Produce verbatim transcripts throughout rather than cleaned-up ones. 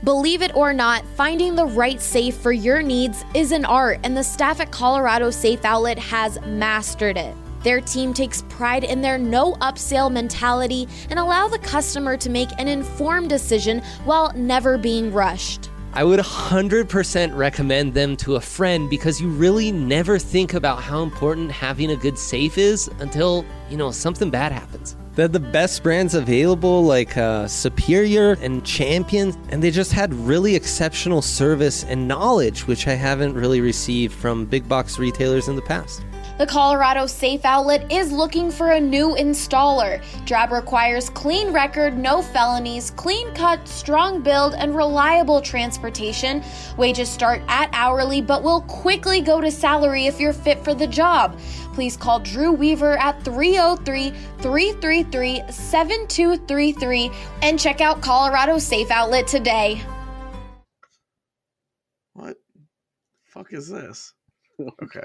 Believe it or not, finding the right safe for your needs is an art, and the staff at Colorado Safe Outlet has mastered it. Their team takes pride in their no upsell mentality and allow the customer to make an informed decision while never being rushed. I would one hundred percent recommend them to a friend because you really never think about how important having a good safe is until, you know, something bad happens. They're the best brands available, like uh, Superior and Champion, and they just had really exceptional service and knowledge, which I haven't really received from big box retailers in the past. The Colorado Safe Outlet is looking for a new installer. Job requires clean record, no felonies, clean cut, strong build, and reliable transportation. Wages start at hourly, but will quickly go to salary if you're fit for the job. Please call Drew Weaver at three oh three, three three three, seven two three three and check out Colorado Safe Outlet today. What the fuck is this? Okay.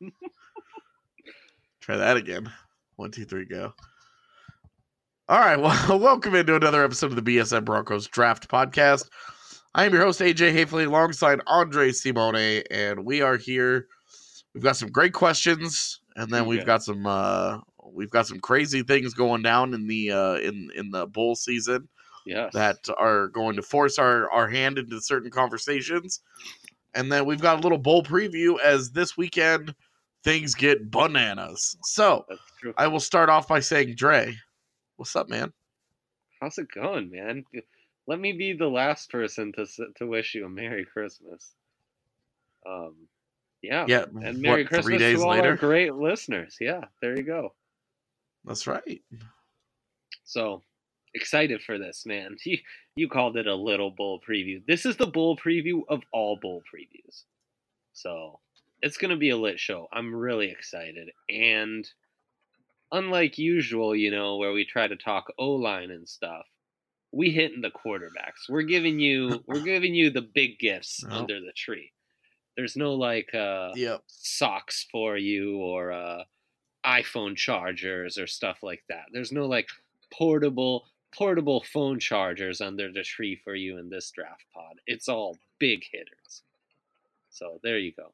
Try that again. One, two, three, go. All right. Well, welcome into another episode of the B S N Broncos Draft Podcast. I am your host, A J Hafley, alongside Andre Simone, and we are here. We've got some great questions, and then we've got some uh, we've got some crazy things going down in the uh, in in the bowl season. Yes. That are going to force our, our hand into certain conversations. And then we've got a little bowl preview as this weekend things get bananas. So I will start off by saying, Dre, what's up, man? How's it going, man? Let me be the last person to to wish you a Merry Christmas. Um, yeah, yeah, and Merry what, Christmas three days to all later? our great listeners. Yeah, there you go. That's right. So excited for this, man. You you called it a little bowl preview. This is the bowl preview of all bowl previews. So it's going to be a lit show. I'm really excited. And unlike usual, you know, where we try to talk O-line and stuff, we hitting the quarterbacks. We're giving you we're giving you the big gifts oh. under the tree. There's no like uh, yep. socks for you or uh, iPhone chargers or stuff like that. There's no like portable portable phone chargers under the tree for you in this draft pod. It's all big hitters. So there you go.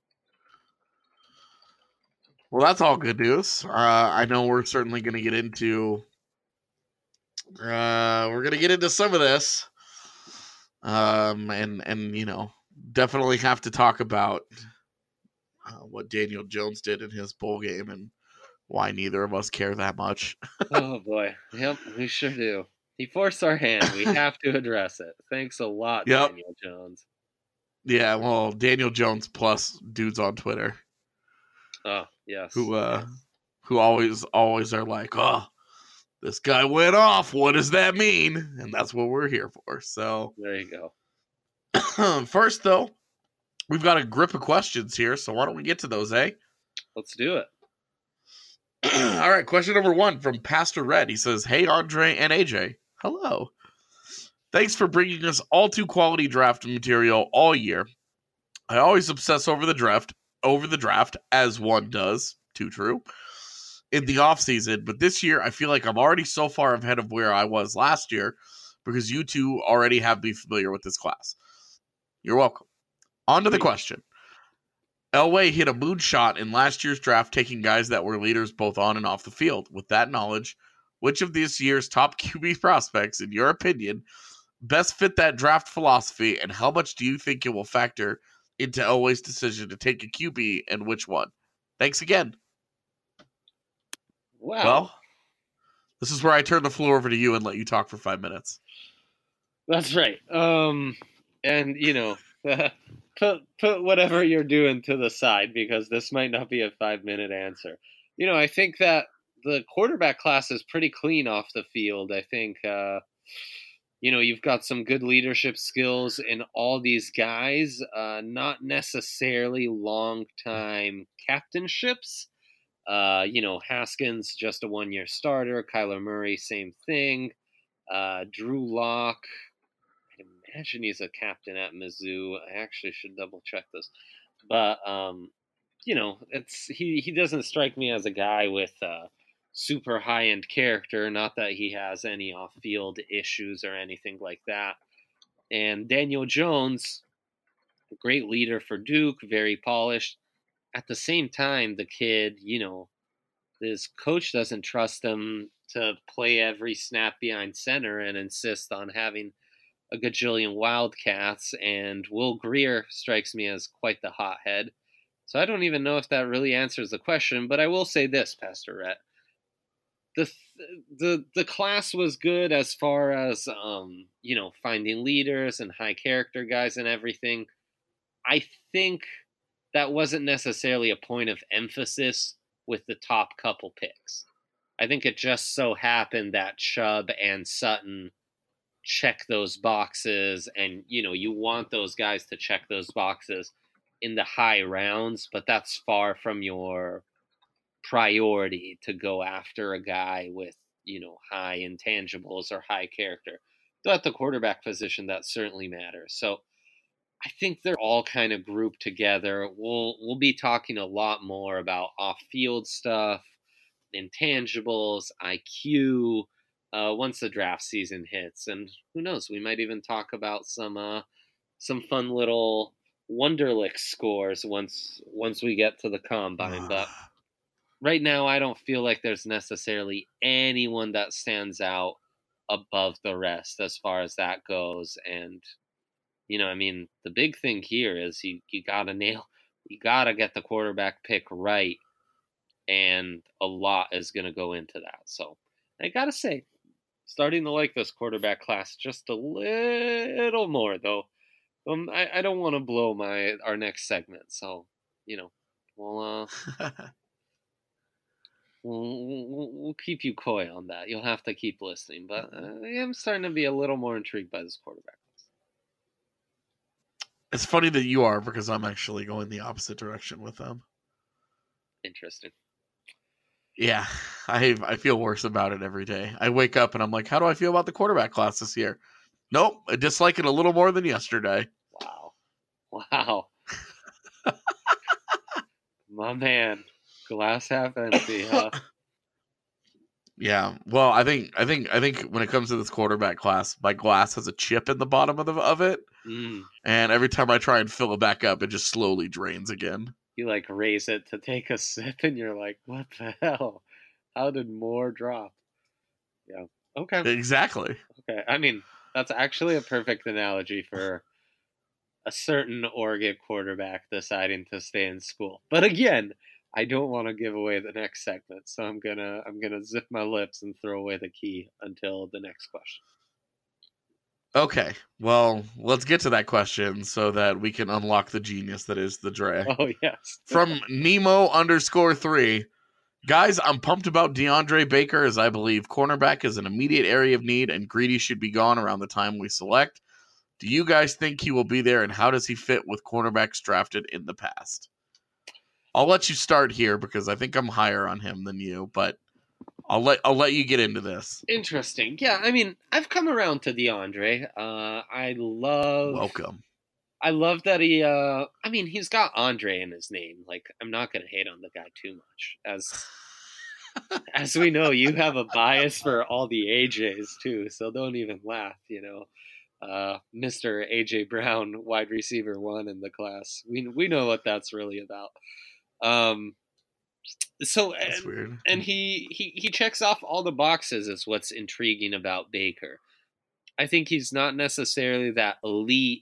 Well, that's all good news. Uh, I know we're certainly going to get into uh, we're going to get into some of this, um, and and you know definitely have to talk about uh, what Daniel Jones did in his bowl game and why neither of us care that much. Oh boy, yep, we sure do. He forced our hand. We have to address it. Thanks a lot, yep. Daniel Jones. Yeah, well, Daniel Jones plus dudes on Twitter. Oh, yes. Who uh yes. who always always are like, "Oh, this guy went off. What does that mean?" And that's what we're here for. So there you go. First though, we've got a grip of questions here, so why don't we get to those, eh? Let's do it. All right, question number one from Pastor Red. He says, "Hey Andre and A J, hello. Thanks for bringing us all too quality draft material all year. I always obsess over the draft, over the draft, as one does, too true, in the offseason. But this year, I feel like I'm already so far ahead of where I was last year because you two already have me familiar with this class. You're welcome. On to the question. Elway hit a moonshot in last year's draft, taking guys that were leaders both on and off the field. With that knowledge, which of this year's top Q B prospects, in your opinion, best fit that draft philosophy, and how much do you think it will factor into Elway's decision to take a Q B, and which one? Thanks again." Wow. Well, this is where I turn the floor over to you and let you talk for five minutes. That's right. Um, and, you know, put, put whatever you're doing to the side because this might not be a five-minute answer. You know, I think that the quarterback class is pretty clean off the field. I think, uh, you know, you've got some good leadership skills in all these guys, uh, not necessarily long-time captainships. Uh, you know, Haskins, just a one-year starter. Kyler Murray, same thing. Uh, Drew Lock, I imagine he's a captain at Mizzou. I actually should double-check this. But, um, you know, it's he, he doesn't strike me as a guy with uh, super high-end character. Not that he has any off-field issues or anything like that. And Daniel Jones, a great leader for Duke, very polished. At the same time, the kid, you know, his coach doesn't trust him to play every snap behind center and insist on having a gajillion Wildcats. And Will Greer strikes me as quite the hothead. So I don't even know if that really answers the question, but I will say this, Pastor Rhett. The, the the class was good as far as, um, you know, finding leaders and high character guys and everything. I think that wasn't necessarily a point of emphasis with the top couple picks. I think it just so happened that Chubb and Sutton check those boxes, and, you know, you want those guys to check those boxes in the high rounds, but that's far from your priority to go after a guy with, you know, high intangibles or high character. Though at the quarterback position, that certainly matters. So I think they're all kind of grouped together. We'll we'll be talking a lot more about off-field stuff, intangibles, I Q, uh, once the draft season hits. And who knows, we might even talk about some uh, some fun little Wonderlic scores once once we get to the combine. But right now, I don't feel like there's necessarily anyone that stands out above the rest as far as that goes. And, you know, I mean, the big thing here is you, you got to nail, you got to get the quarterback pick right. And a lot is going to go into that. So I got to say, starting to like this quarterback class just a little more, though. Um, I, I don't want to blow my our next segment. So, you know, we'll, uh, we'll, we'll, we'll keep you coy on that. You'll have to keep listening. But uh, I am starting to be a little more intrigued by this quarterback. It's funny that you are, because I'm actually going the opposite direction with them. Interesting. Yeah, I I feel worse about it every day. I wake up and I'm like, how do I feel about the quarterback class this year? Nope, I dislike it a little more than yesterday. Wow. Wow. My man. Glass half empty, huh? Yeah. Well, I think I think I think when it comes to this quarterback class, my glass has a chip in the bottom of the of it. Mm. And every time I try and fill it back up, it just slowly drains again. You like raise it to take a sip and you're like, what the hell? How did more drop? Yeah. Okay. Exactly. Okay. I mean, that's actually a perfect analogy for a certain Oregon quarterback deciding to stay in school. But again, I don't want to give away the next segment, so I'm gonna I'm gonna zip my lips and throw away the key until the next question. Okay, well, let's get to that question so that we can unlock the genius that is the Dre. Oh yes. From Nemo underscore three, guys, I'm pumped about DeAndre Baker, as I believe cornerback is an immediate area of need, and Greedy should be gone around the time we select. Do you guys think he will be there, and how does he fit with cornerbacks drafted in the past? I'll let you start here because I think I'm higher on him than you, but I'll let I'll let you get into this. Interesting. Yeah, I mean, I've come around to DeAndre. Uh, I love. Welcome. I love that he. Uh, I mean, he's got Andre in his name. Like, I'm not gonna hate on the guy too much, as as we know, you have a bias for all the A Js too. So don't even laugh. You know, uh, Mister A J Brown, wide receiver one in the class. We we know what that's really about. Um. So That's and, weird. and he, he he checks off all the boxes is what's intriguing about Baker. I think he's not necessarily that elite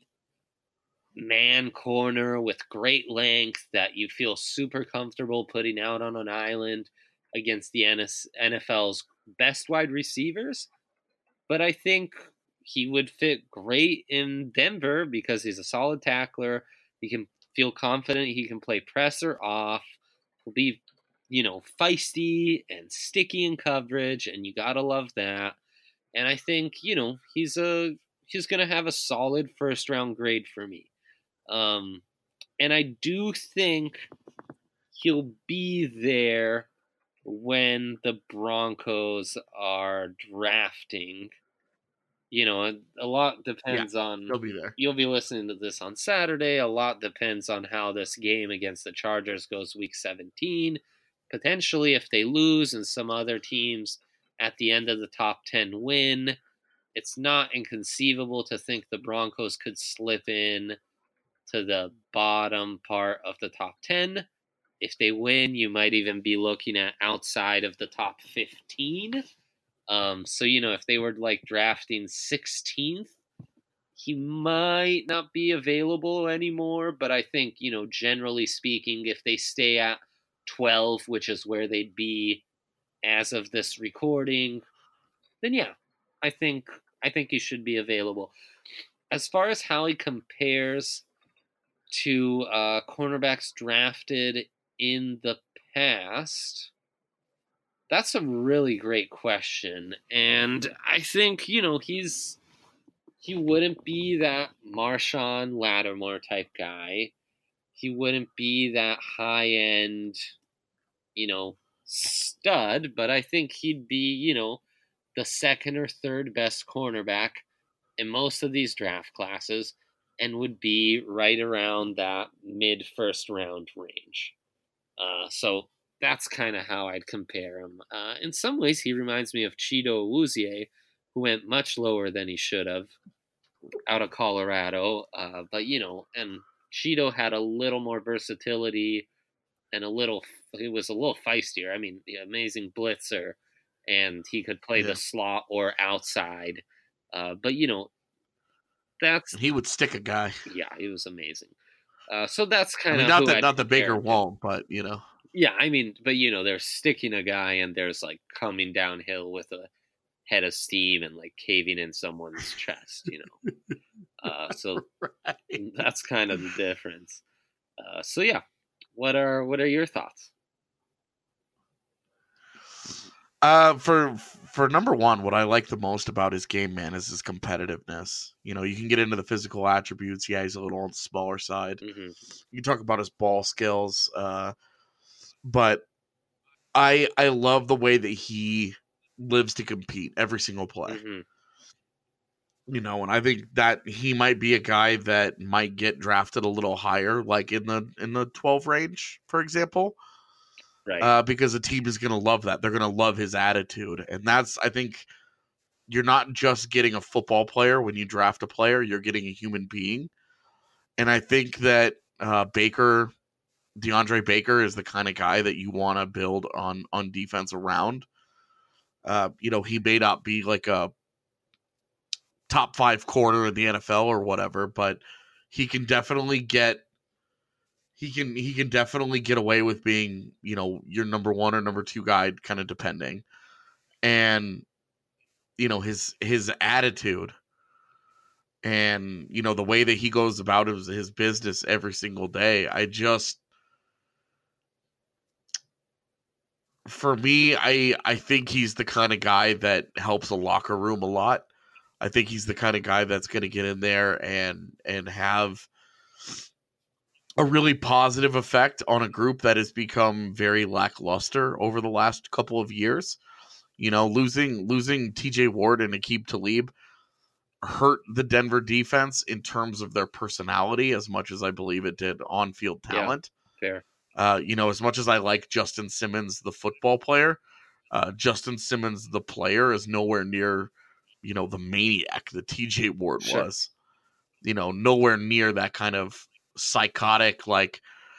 man corner with great length that you feel super comfortable putting out on an island against the N F L's best wide receivers. But I think he would fit great in Denver because he's a solid tackler. He can feel confident. He can play press or off. He'll be, you know, feisty and sticky in coverage, and you gotta love that. And I think, you know, he's a he's gonna have a solid first round grade for me. Um, and I do think he'll be there when the Broncos are drafting. You know, a lot depends yeah, on. He'll be there. You'll be listening to this on Saturday. A lot depends on how this game against the Chargers goes week seventeen. Potentially, if they lose and some other teams at the end of the top ten win, it's not inconceivable to think the Broncos could slip in to the bottom part of the top ten. If they win, you might even be looking at outside of the top fifteen. Um, so, you know, if they were like drafting sixteenth, he might not be available anymore. But I think, you know, generally speaking, if they stay at twelve, which is where they'd be as of this recording, then yeah, I think I think he should be available. As far as how he compares to uh, cornerbacks drafted in the past, that's a really great question. And I think, you know, he's he wouldn't be that Marshawn Lattimore type guy. He wouldn't be that high-end, you know, stud, but I think he'd be, you know, the second or third best cornerback in most of these draft classes and would be right around that mid-first round range. Uh, so that's kind of how I'd compare him. Uh, in some ways, he reminds me of Chido Awuzie, who went much lower than he should have out of Colorado. Uh, but, you know, and Chido had a little more versatility and a little, he was a little feistier. I mean, the amazing blitzer, and he could play yeah. the slot or outside. Uh, but, you know, that's... He would stick a guy. Yeah, he was amazing. Uh, so that's kind I mean, of not that I'd not the Baker compare. won't, but, you know. Yeah, I mean, but, you know, there's sticking a guy and there's, like, coming downhill with a head of steam and, like, caving in someone's chest, you know. Uh, so right. that's kind of the difference. Uh, so, yeah. What are what are your thoughts? Uh, for for number one, what I like the most about his game, man, is his competitiveness. You know, you can get into the physical attributes. Yeah, he's a little on the smaller side. Mm-hmm. You can talk about his ball skills, uh, but I I love the way that he lives to compete every single play. Mm-hmm. You know, and I think that he might be a guy that might get drafted a little higher, like in the in the twelve range, for example. Right. Uh, because the team is going to love that. They're going to love his attitude. And that's, I think, you're not just getting a football player when you draft a player, you're getting a human being. And I think that uh, Baker, DeAndre Baker, is the kind of guy that you want to build on, on defense around. Uh, you know, he may not be like a top five corner in the N F L or whatever, but he can definitely get He can he can definitely get away with being, you know, your number one or number two guy, kind of depending. And, you know, his his attitude and, you know, the way that he goes about his, his business every single day, I just, for me, I I think he's the kind of guy that helps a locker room a lot. I think he's the kind of guy that's going to get in there and and have a really positive effect on a group that has become very lackluster over the last couple of years. You know, losing losing T J Ward and Aqib Talib hurt the Denver defense in terms of their personality as much as I believe it did on-field talent. Yeah, fair. Uh, you know, as much as I like Justin Simmons, the football player, uh, Justin Simmons, the player, is nowhere near, you know, the maniac that T J Ward Sure. was. You know, nowhere near that kind of psychotic, like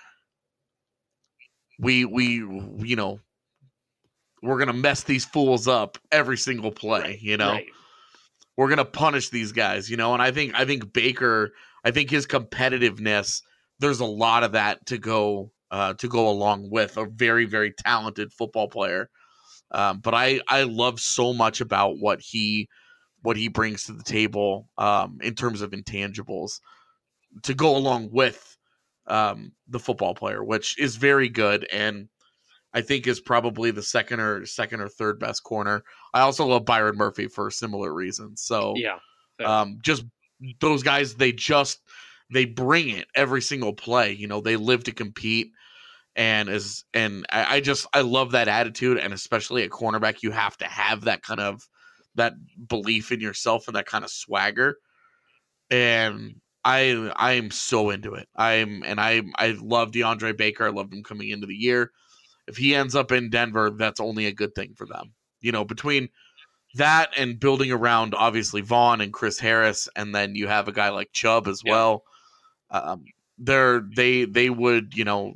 we we you know we're gonna mess these fools up every single play. Right, you know, right. we're gonna punish these guys. You know, and I think I think Baker, I think his competitiveness, there's a lot of that to go uh, to go along with a very very talented football player. Um, but I I love so much about what he what he brings to the table um, in terms of intangibles to go along with um, the football player, which is very good, and I think is probably the second or second or third best corner. I also love Byron Murphy for similar reasons. So Yeah. fair. um, just those guys, they just they bring it every single play. You know, they live to compete, and as and I, I just I love that attitude, and especially at cornerback, you have to have that kind of that belief in yourself and that kind of swagger. And I I am so into it. I'm and I I love DeAndre Baker. I loved him coming into the year. If he ends up in Denver, that's only a good thing for them. You know, between that and building around obviously Vaughn and Chris Harris, and then you have a guy like Chubb as Yeah. well. Um, they're they they would you know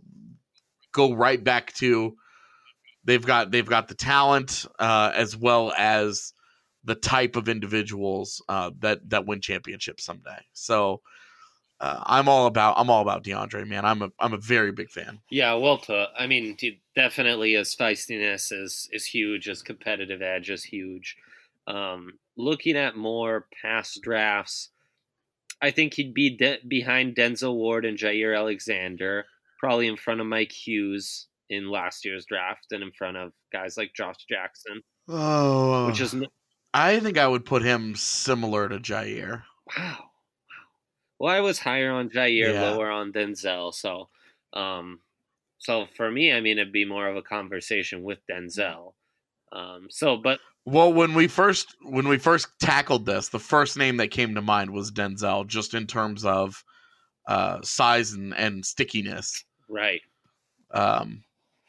go right back to they've got they've got the talent uh, as well as the type of individuals uh, that that win championships someday. So uh, I'm all about I'm all about DeAndre, man. I'm a I'm a very big fan. Yeah, well put. I mean, d- definitely his feistiness is is huge. His competitive edge is huge. Um, looking at more past drafts, I think he'd be de- behind Denzel Ward and Jair Alexander, probably in front of Mike Hughes in last year's draft, and in front of guys like Josh Jackson. Oh, Which is n- I think I would put him similar to Jair. wow. Well, I was higher on Jair, Yeah. lower on Denzel. So, um, so for me, I mean, it'd be more of a conversation with Denzel. Um, so, but Well, when we first when we first tackled this, the first name that came to mind was Denzel, just in terms of uh, size and, and stickiness. right, Um,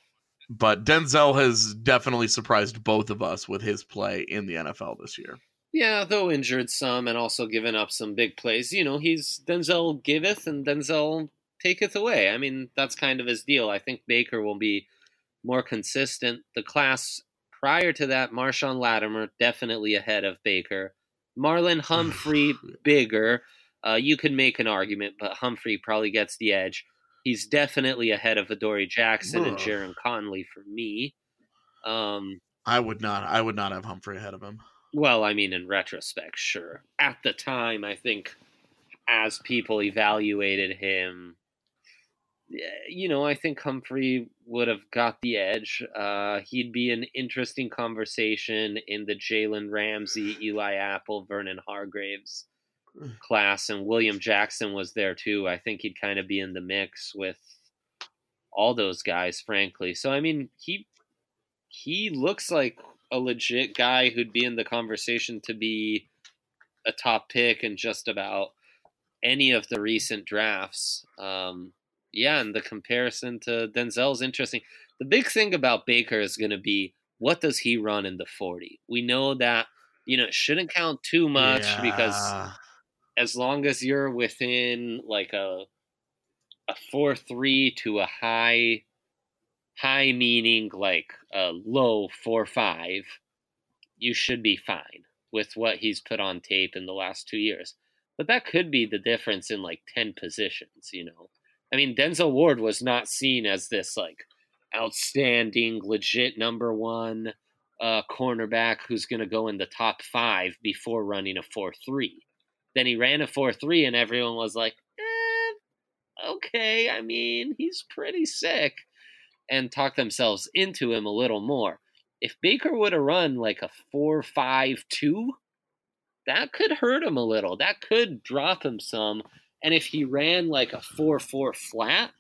but Denzel has definitely surprised both of us with his play in the N F L this year. yeah, though injured some and also given up some big plays. You know, he's Denzel giveth and Denzel taketh away. I mean, that's kind of his deal. I think Baker will be more consistent. The class prior to that, Marshawn Lattimore definitely ahead of Baker. Marlon Humphrey bigger. Uh, you could make an argument, but Humphrey probably gets the edge. He's definitely ahead of Adoree Jackson and Ugh. Jaron Conley for me. Um, I would not I would not have Humphrey ahead of him. well, I mean, in retrospect, sure. At the time, I think as people evaluated him, yeah, you know, I think Humphrey would have got the edge. Uh, he'd be an interesting conversation in the Jalen Ramsey, Eli Apple, Vernon Hargraves class, and William Jackson was there too. I think he'd kind of be in the mix with all those guys, frankly. So, I mean, he he looks like a legit guy who'd be in the conversation to be a top pick in just about any of the recent drafts. Um, yeah, and the comparison to Denzel's interesting. The big thing about Baker is going to be, what does he run in the forty? We know that, you know, it shouldn't count too much Yeah. because as long as you're within like a a four three to a high high meaning like a low four five, you should be fine with what he's put on tape in the last two years. But that could be the difference in like ten positions, you know. I mean, Denzel Ward was not seen as this like outstanding, legit number one uh, cornerback who's going to go in the top five before running a four three. Then he ran a four three, and everyone was like, eh, okay, I mean, he's pretty sick, and talked themselves into him a little more. If Baker would have run like a four five two, that could hurt him a little. That could drop him some. And if he ran like a four four flat,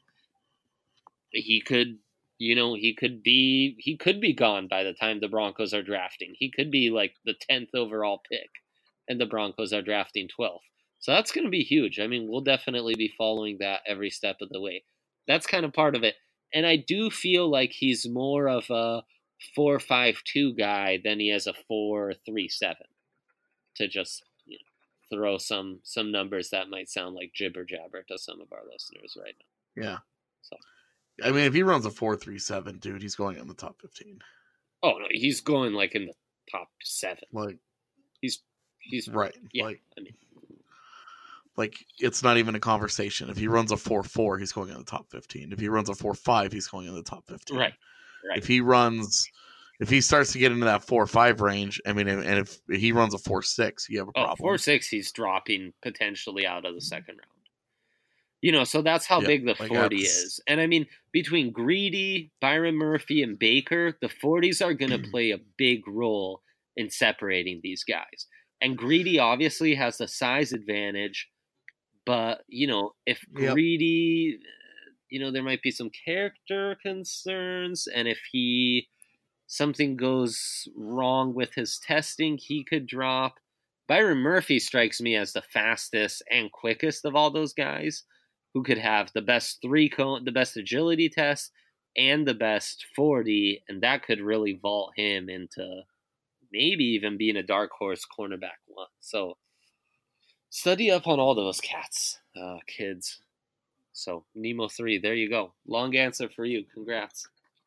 he could, you know, he could be he could be gone by the time the Broncos are drafting. He could be like the tenth overall pick, and the Broncos are drafting twelfth. So that's going to be huge. I mean, we'll definitely be following that every step of the way. That's kind of part of it. And I do feel like he's more of a four five two guy than he is a four three seven. To just, you know, throw some some numbers that might sound like jibber jabber to some of our listeners right now. Yeah. So, I mean, if he runs a four three seven, dude, he's going in the top fifteen. oh no, he's going like in the top seven. Like, He's he's right. Yeah, Like, I mean, like it's not even a conversation. If he runs a four four, he's going in the top fifteen. If he runs a four five, he's going in the top fifteen. right, right. If he runs, if he starts to get into that four five range, I mean, and if he runs a four six, you have a Oh, problem. four six, he's dropping potentially out of the second round. You know, so that's how Yeah, big the like forty that's- is. And I mean, between Greedy, Byron Murphy, and Baker, the forties are going to play a big role in separating these guys. And Greedy obviously has the size advantage, but, you know, if Yep. Greedy, you know, there might be some character concerns, and if he, something goes wrong with his testing, he could drop. Byron Murphy strikes me as the fastest and quickest of all those guys, who could have the best three cone, the best agility test, and the best forty, and that could really vault him into maybe even being a dark horse cornerback one. So study up on all those cats, uh, kids. So Nemo three, there you go. Long answer for you. Congrats.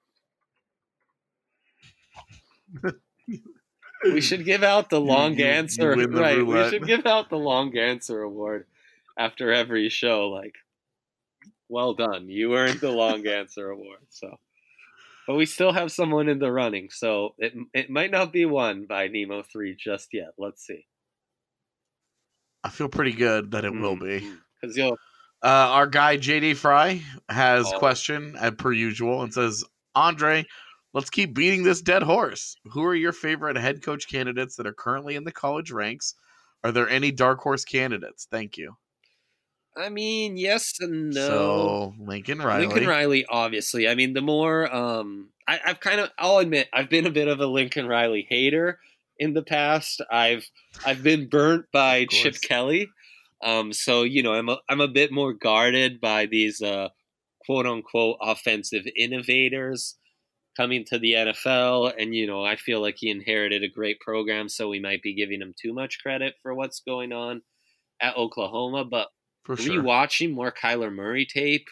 We should give out the long you, you, answer. you Right. roulette. We should give out the long answer award after every show. Like, well done. You earned the long answer award. So, but we still have someone in the running. So it it might not be won by Nemo three just yet. Let's see. I feel pretty good that it mm, will be. Because you'll. Uh, our guy J D Fry has a Oh. question as per usual and says, Andre, let's keep beating this dead horse. Who are your favorite head coach candidates that are currently in the college ranks? Are there any dark horse candidates? Thank you. I mean, yes and no. So Lincoln Riley. Lincoln Riley, obviously. I mean, the more um, I, I've kind of, I'll admit, I've been a bit of a Lincoln Riley hater in the past. I've I've been burnt by Chip Kelly, um, so you know, I'm a, I'm a bit more guarded by these uh, quote unquote offensive innovators coming to the N F L, and you know, I feel like he inherited a great program, so we might be giving him too much credit for what's going on at Oklahoma, but. For sure. Rewatching more Kyler Murray tape,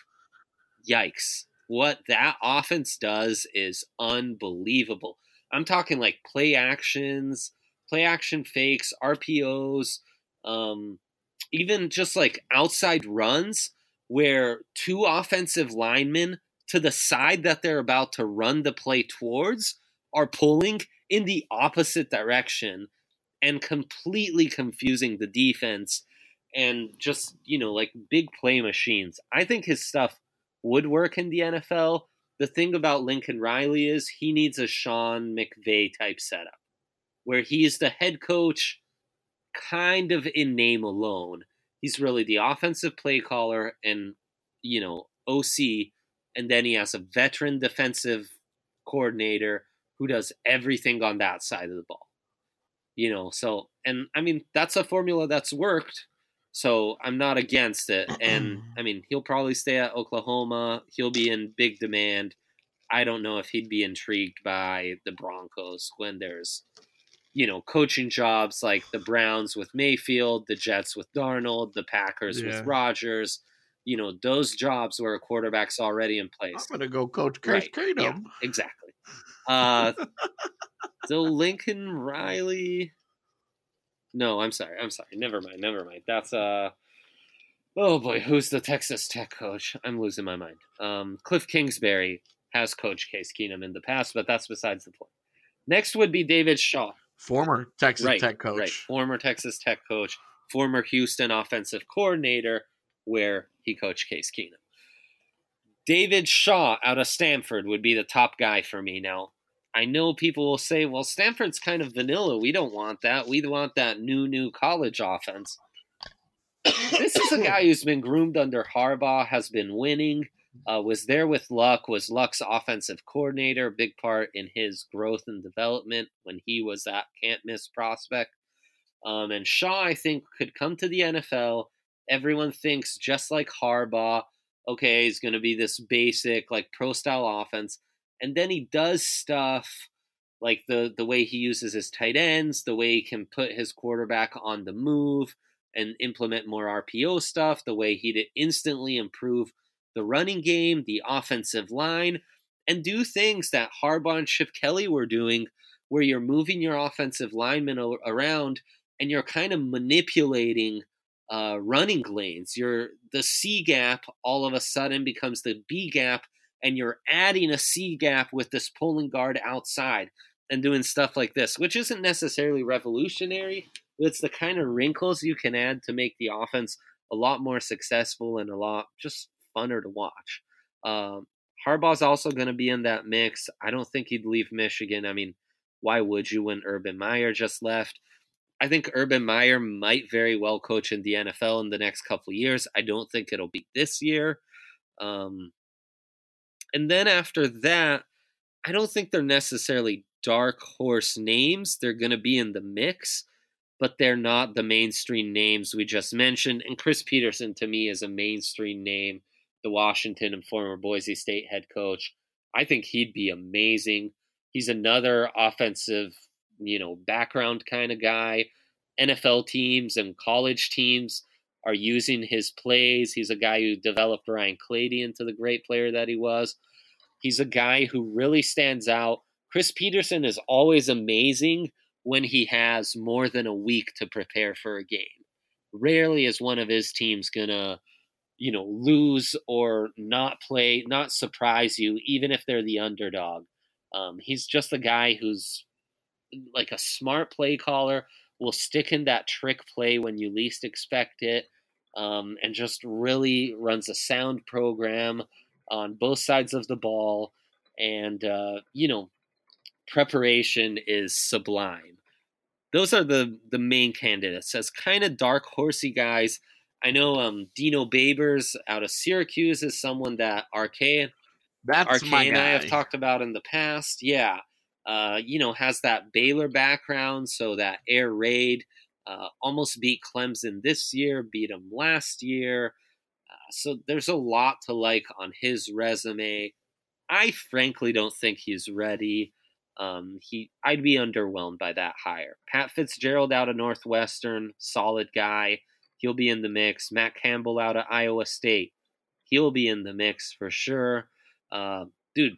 yikes. What that offense does is unbelievable. I'm talking like play actions, play action fakes, R P Os, um, even just like outside runs where two offensive linemen to the side that they're about to run the play towards are pulling in the opposite direction and completely confusing the defense. And just, you know, like big play machines. I think his stuff would work in the N F L. The thing about Lincoln Riley is he needs a Sean McVay type setup where he's the head coach kind of in name alone. He's really the offensive play caller and, you know, O C. And then he has a veteran defensive coordinator who does everything on that side of the ball. You know, so, and I mean, that's a formula that's worked. So I'm not against it. And, I mean, he'll probably stay at Oklahoma. He'll be in big demand. I don't know if he'd be intrigued by the Broncos when there's, you know, coaching jobs like the Browns with Mayfield, the Jets with Darnold, the Packers Yeah. with Rodgers. You know, those jobs where a quarterback's already in place. I'm going to go coach Case Right. Keenum. Yeah, exactly. Uh, so Lincoln Riley... No, I'm sorry. I'm sorry. Never mind. Never mind. That's uh oh boy, who's the Texas Tech coach? I'm losing my mind. Um, Cliff Kingsbury has coached Case Keenum in the past, but that's besides the point. Next would be David Shaw, Former Texas right, Tech coach. right, former Texas Tech coach, former Houston offensive coordinator, where he coached Case Keenum. David Shaw out of Stanford would be the top guy for me now. I know people will say, well, Stanford's kind of vanilla. We don't want that. We want that new, new college offense. This is a guy who's been groomed under Harbaugh, has been winning, uh, was there with Luck, was Luck's offensive coordinator, big part in his growth and development when he was that can't-miss prospect. Um, and Shaw, I think, could come to the N F L. Everyone thinks, just like Harbaugh, okay, he's going to be this basic, like, pro-style offense. And then he does stuff like the, the way he uses his tight ends, the way he can put his quarterback on the move and implement more R P O stuff, the way he'd instantly improve the running game, the offensive line, and do things that Harbaugh and Chip Kelly were doing where you're moving your offensive linemen around and you're kind of manipulating uh, running lanes. You're, the C gap all of a sudden becomes the B gap, and you're adding a C gap with this pulling guard outside and doing stuff like this, which isn't necessarily revolutionary, but it's the kind of wrinkles you can add to make the offense a lot more successful and a lot just funner to watch. Um, Harbaugh's also going to be in that mix. I don't think he'd leave Michigan. I mean, why would you when Urban Meyer just left? I think Urban Meyer might very well coach in the N F L in the next couple of years. I don't think it'll be this year. Um, And then after that, I don't think they're necessarily dark horse names. They're going to be in the mix, but they're not the mainstream names we just mentioned. And Chris Peterson, to me, is a mainstream name, the Washington and former Boise State head coach. I think he'd be amazing. He's another offensive you know, background kind of guy. N F L teams and college teams are using his plays. He's a guy who developed Ryan Clady into the great player that he was. He's a guy who really stands out. Chris Peterson is always amazing when he has more than a week to prepare for a game. Rarely is one of his teams going to, you know, lose or not play, not surprise you, even if they're the underdog. Um, he's just a guy who's like a smart play caller, will stick in that trick play when you least expect it, um, and just really runs a sound program on both sides of the ball. And, uh, you know, preparation is sublime. Those are the, the main candidates. As kind of dark horsey guys, I know um, Dino Babers out of Syracuse is someone that Arcade, That's Arcade my and I guy. have talked about in the past. Yeah. Uh, you know, has that Baylor background, so that air raid, uh, almost beat Clemson this year, beat them last year. Uh, so there's a lot to like on his resume. I frankly don't think he's ready. Um, he, I'd be underwhelmed by that hire. Pat Fitzgerald out of Northwestern, solid guy. He'll be in the mix. Matt Campbell out of Iowa State. He'll be in the mix for sure. Uh, dude,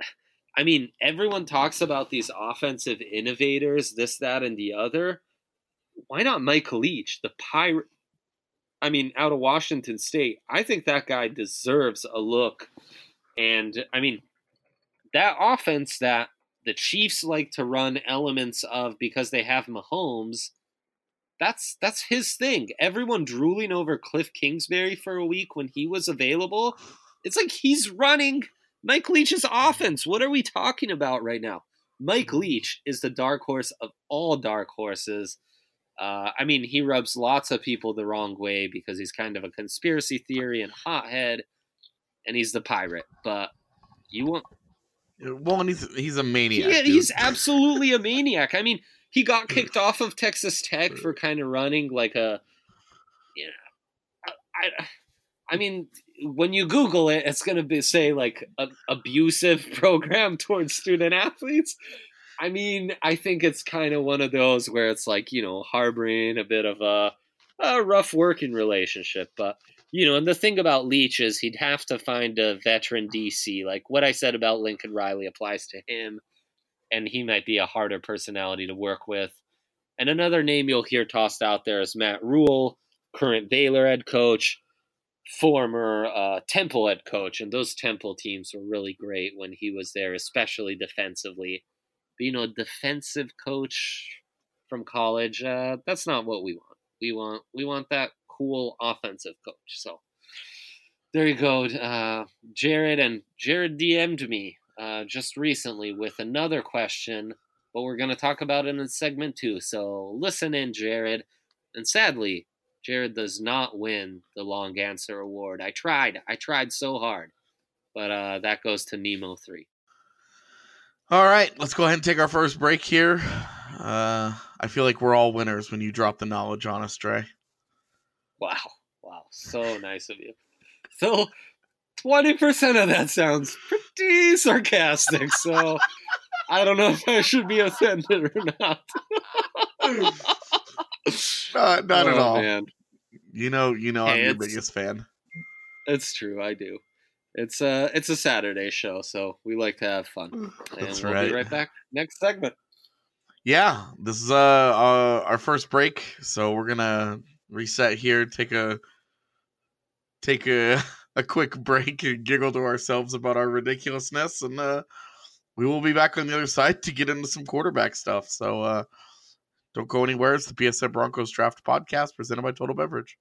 I mean, everyone talks about these offensive innovators, this, that, and the other. Why not Mike Leach, the pirate? I mean, out of Washington State. I think that guy deserves a look. And, I mean, that offense that the Chiefs like to run elements of because they have Mahomes, that's that's his thing. Everyone drooling over Cliff Kingsbury for a week when he was available. It's like he's running Mike Leach's offense. What are we talking about right now? Mike Leach is the dark horse of all dark horses. Uh, I mean, he rubs lots of people the wrong way because he's kind of a conspiracy theory and hothead, and he's the pirate. But you want... Well, and he's, he's a maniac. Yeah, dude. he's absolutely a maniac. I mean, he got kicked off of Texas Tech for kind of running like a... You know, I, I mean... When you Google it, it's going to be say like an abusive program towards student athletes. I mean, I think it's kind of one of those where it's like, you know, harboring a bit of a, a rough working relationship. But, you know, and the thing about Leach is he'd have to find a veteran D C. Like what I said about Lincoln Riley applies to him, and he might be a harder personality to work with. And another name you'll hear tossed out there is Matt Rule, current Baylor head coach, former uh, Temple head coach, and those Temple teams were really great when he was there, especially defensively. But, you know, defensive coach from college, uh, that's not what we want. We want we want that cool offensive coach. So there you go, uh, Jared. And Jared D M'd me uh, just recently with another question, but we're going to talk about it in segment two. So listen in, Jared. And sadly, Jared does not win the long answer award. I tried. I tried so hard. But uh, that goes to Nemo three. All right, let's go ahead and take our first break here. Uh, I feel like we're all winners when you drop the knowledge on us, Dre. Wow. Wow. So nice of you. So twenty percent of that sounds pretty sarcastic. So I don't know if I should be offended or not. Uh, not oh, at all. Man. You know, you know, Hey, I'm your it's- biggest fan. It's true. I do. It's a, it's a Saturday show, so we like to have fun. And That's we'll right. be right back. Next segment. Yeah, this is uh, uh our first break, so we're gonna reset here, take a take a a quick break and giggle to ourselves about our ridiculousness, and uh, we will be back on the other side to get into some quarterback stuff. So uh, don't go anywhere. It's the P S N Broncos Draft Podcast presented by Total Beverage.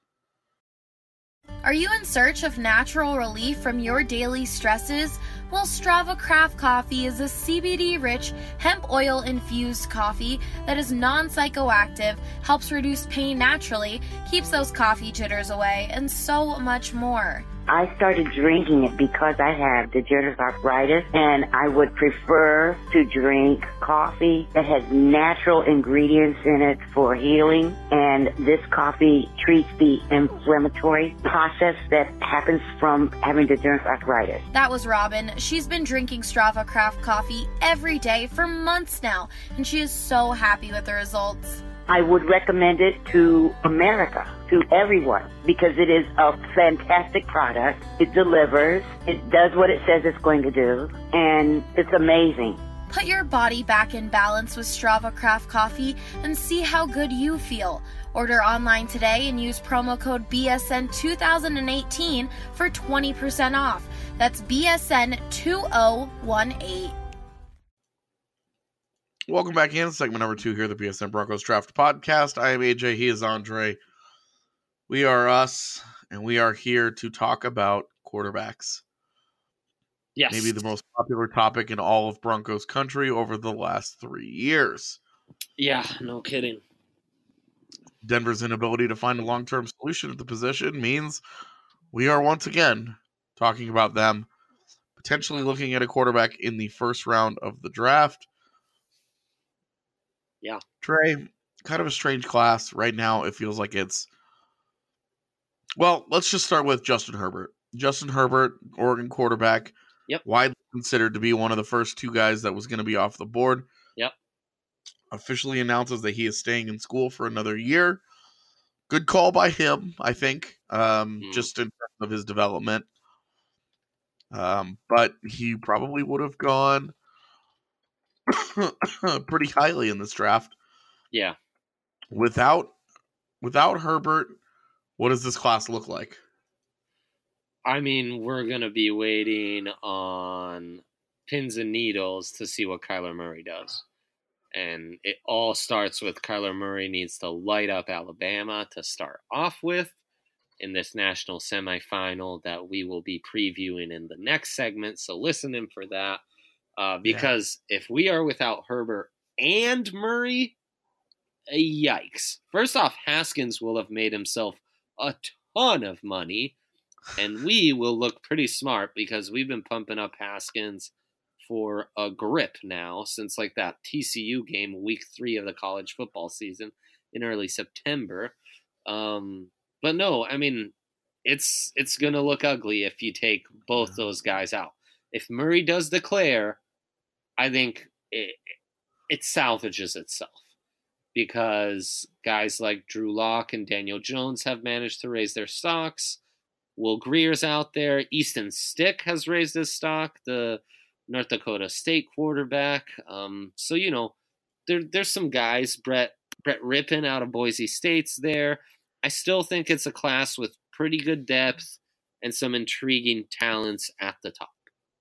Are you in search of natural relief from your daily stresses? Well, Strava Craft Coffee is a C B D-rich, hemp oil-infused coffee that is non-psychoactive, helps reduce pain naturally, keeps those coffee jitters away, and so much more. I started drinking it because I have degenerative arthritis, and I would prefer to drink coffee that has natural ingredients in it for healing, and this coffee treats the inflammatory process that happens from having degenerative arthritis. That was Robin. She's been drinking Strava Craft coffee every day for months now, and she is so happy with the results. I would recommend it to America, to everyone, because it is a fantastic product. It delivers, it does what it says it's going to do, and it's amazing. Put your body back in balance with Strava Craft coffee and see how good you feel. Order online today and use promo code B S N twenty eighteen for twenty percent off. That's B S N two thousand eighteen. Welcome back in, segment number two here, the B S N Broncos Draft Podcast. I am A J, he is Andre. We are us, and we are here to talk about quarterbacks. Yes. Maybe the most popular topic in all of Broncos country over the last three years. Yeah, no kidding. Denver's inability to find a long-term solution at the position means we are once again talking about them potentially looking at a quarterback in the first round of the draft. Yeah. Trey, kind of a strange class. Right now, it feels like it's... Well, let's just start with Justin Herbert. Justin Herbert, Oregon quarterback. Yep. Widely considered to be one of the first two guys that was going to be off the board. Yep. Officially announces that he is staying in school for another year. Good call by him, I think, um, Mm. just in terms of his development. Um, but he probably would have gone pretty highly in this draft. Yeah. Without without Herbert, what does this class look like? I mean, we're going to be waiting on pins and needles to see what Kyler Murray does. And it all starts with Kyler Murray needs to light up Alabama to start off with in this national semifinal that we will be previewing in the next segment. So listen in for that. Uh, because yeah. if we are without Herbert and Murray, yikes. First off, Haskins will have made himself a ton of money. And we will look pretty smart because we've been pumping up Haskins for a grip now since like that T C U game, week three of the college football season in early September. Um, but no, I mean, it's it's going to look ugly if you take both those guys out. If Murray does declare, I think it, it salvages itself because guys like Drew Lock and Daniel Jones have managed to raise their stocks. Will Greer's out there. Easton Stick has raised his stock, the North Dakota State quarterback. Um, so, you know, there, there's some guys. Brett Brett Rippon out of Boise State's there. I still think it's a class with pretty good depth and some intriguing talents at the top.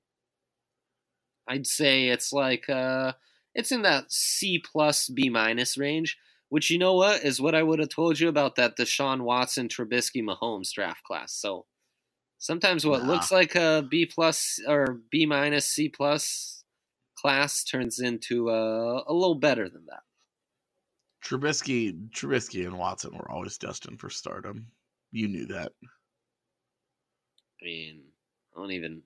I'd say it's like uh, it's in that C plus B minus range. Which, you know what, is what I would have told you about that Deshaun Watson, Trubisky, Mahomes draft class. So sometimes what nah. looks like a B plus or B minus C plus class turns into a, a little better than that. Trubisky, Trubisky and Watson were always destined for stardom. You knew that. I mean, I don't even...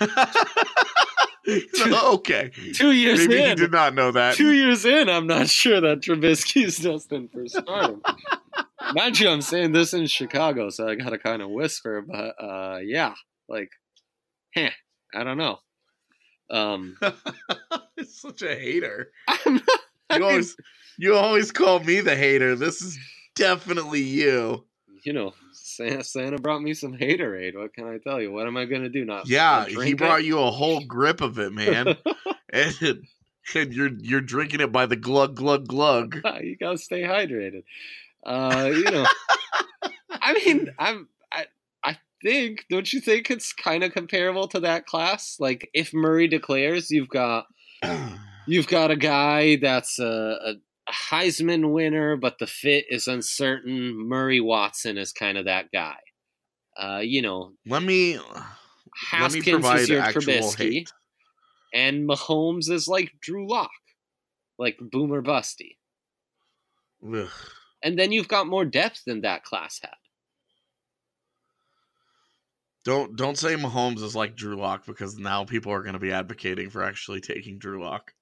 So, okay. Two years Maybe in. Maybe you did not know that. Two years in, I'm not sure that Trubisky's destined for stardom. Mind you, I'm saying this in Chicago, so I gotta kind of whisper, but uh, yeah, like, heh, I don't know. Um, It's such a hater. I'm not, I you mean, always, you always call me the hater. This is definitely you. You know, Santa, Santa brought me some haterade. What can I tell you? What am I going to do? Not Yeah, not drink he brought it? you a whole grip of it, man. and, and you're you're drinking it by the glug, glug, glug. You got to stay hydrated. Uh, you know, I mean, I'm, I, I think, don't you think it's kind of comparable to that class? Like, if Murray declares, you've got, you've got a guy that's a, a Heisman winner, but the fit is uncertain. Murray Watson is kind of that guy. Uh, you know, let me Haskins let me provide is your actual Trubisky, hate. and Mahomes is like Drew Lock, like Boomer Busty. Ugh. And then you've got more depth than that class had. Don't don't say Mahomes is like Drew Lock, because now people are going to be advocating for actually taking Drew Lock.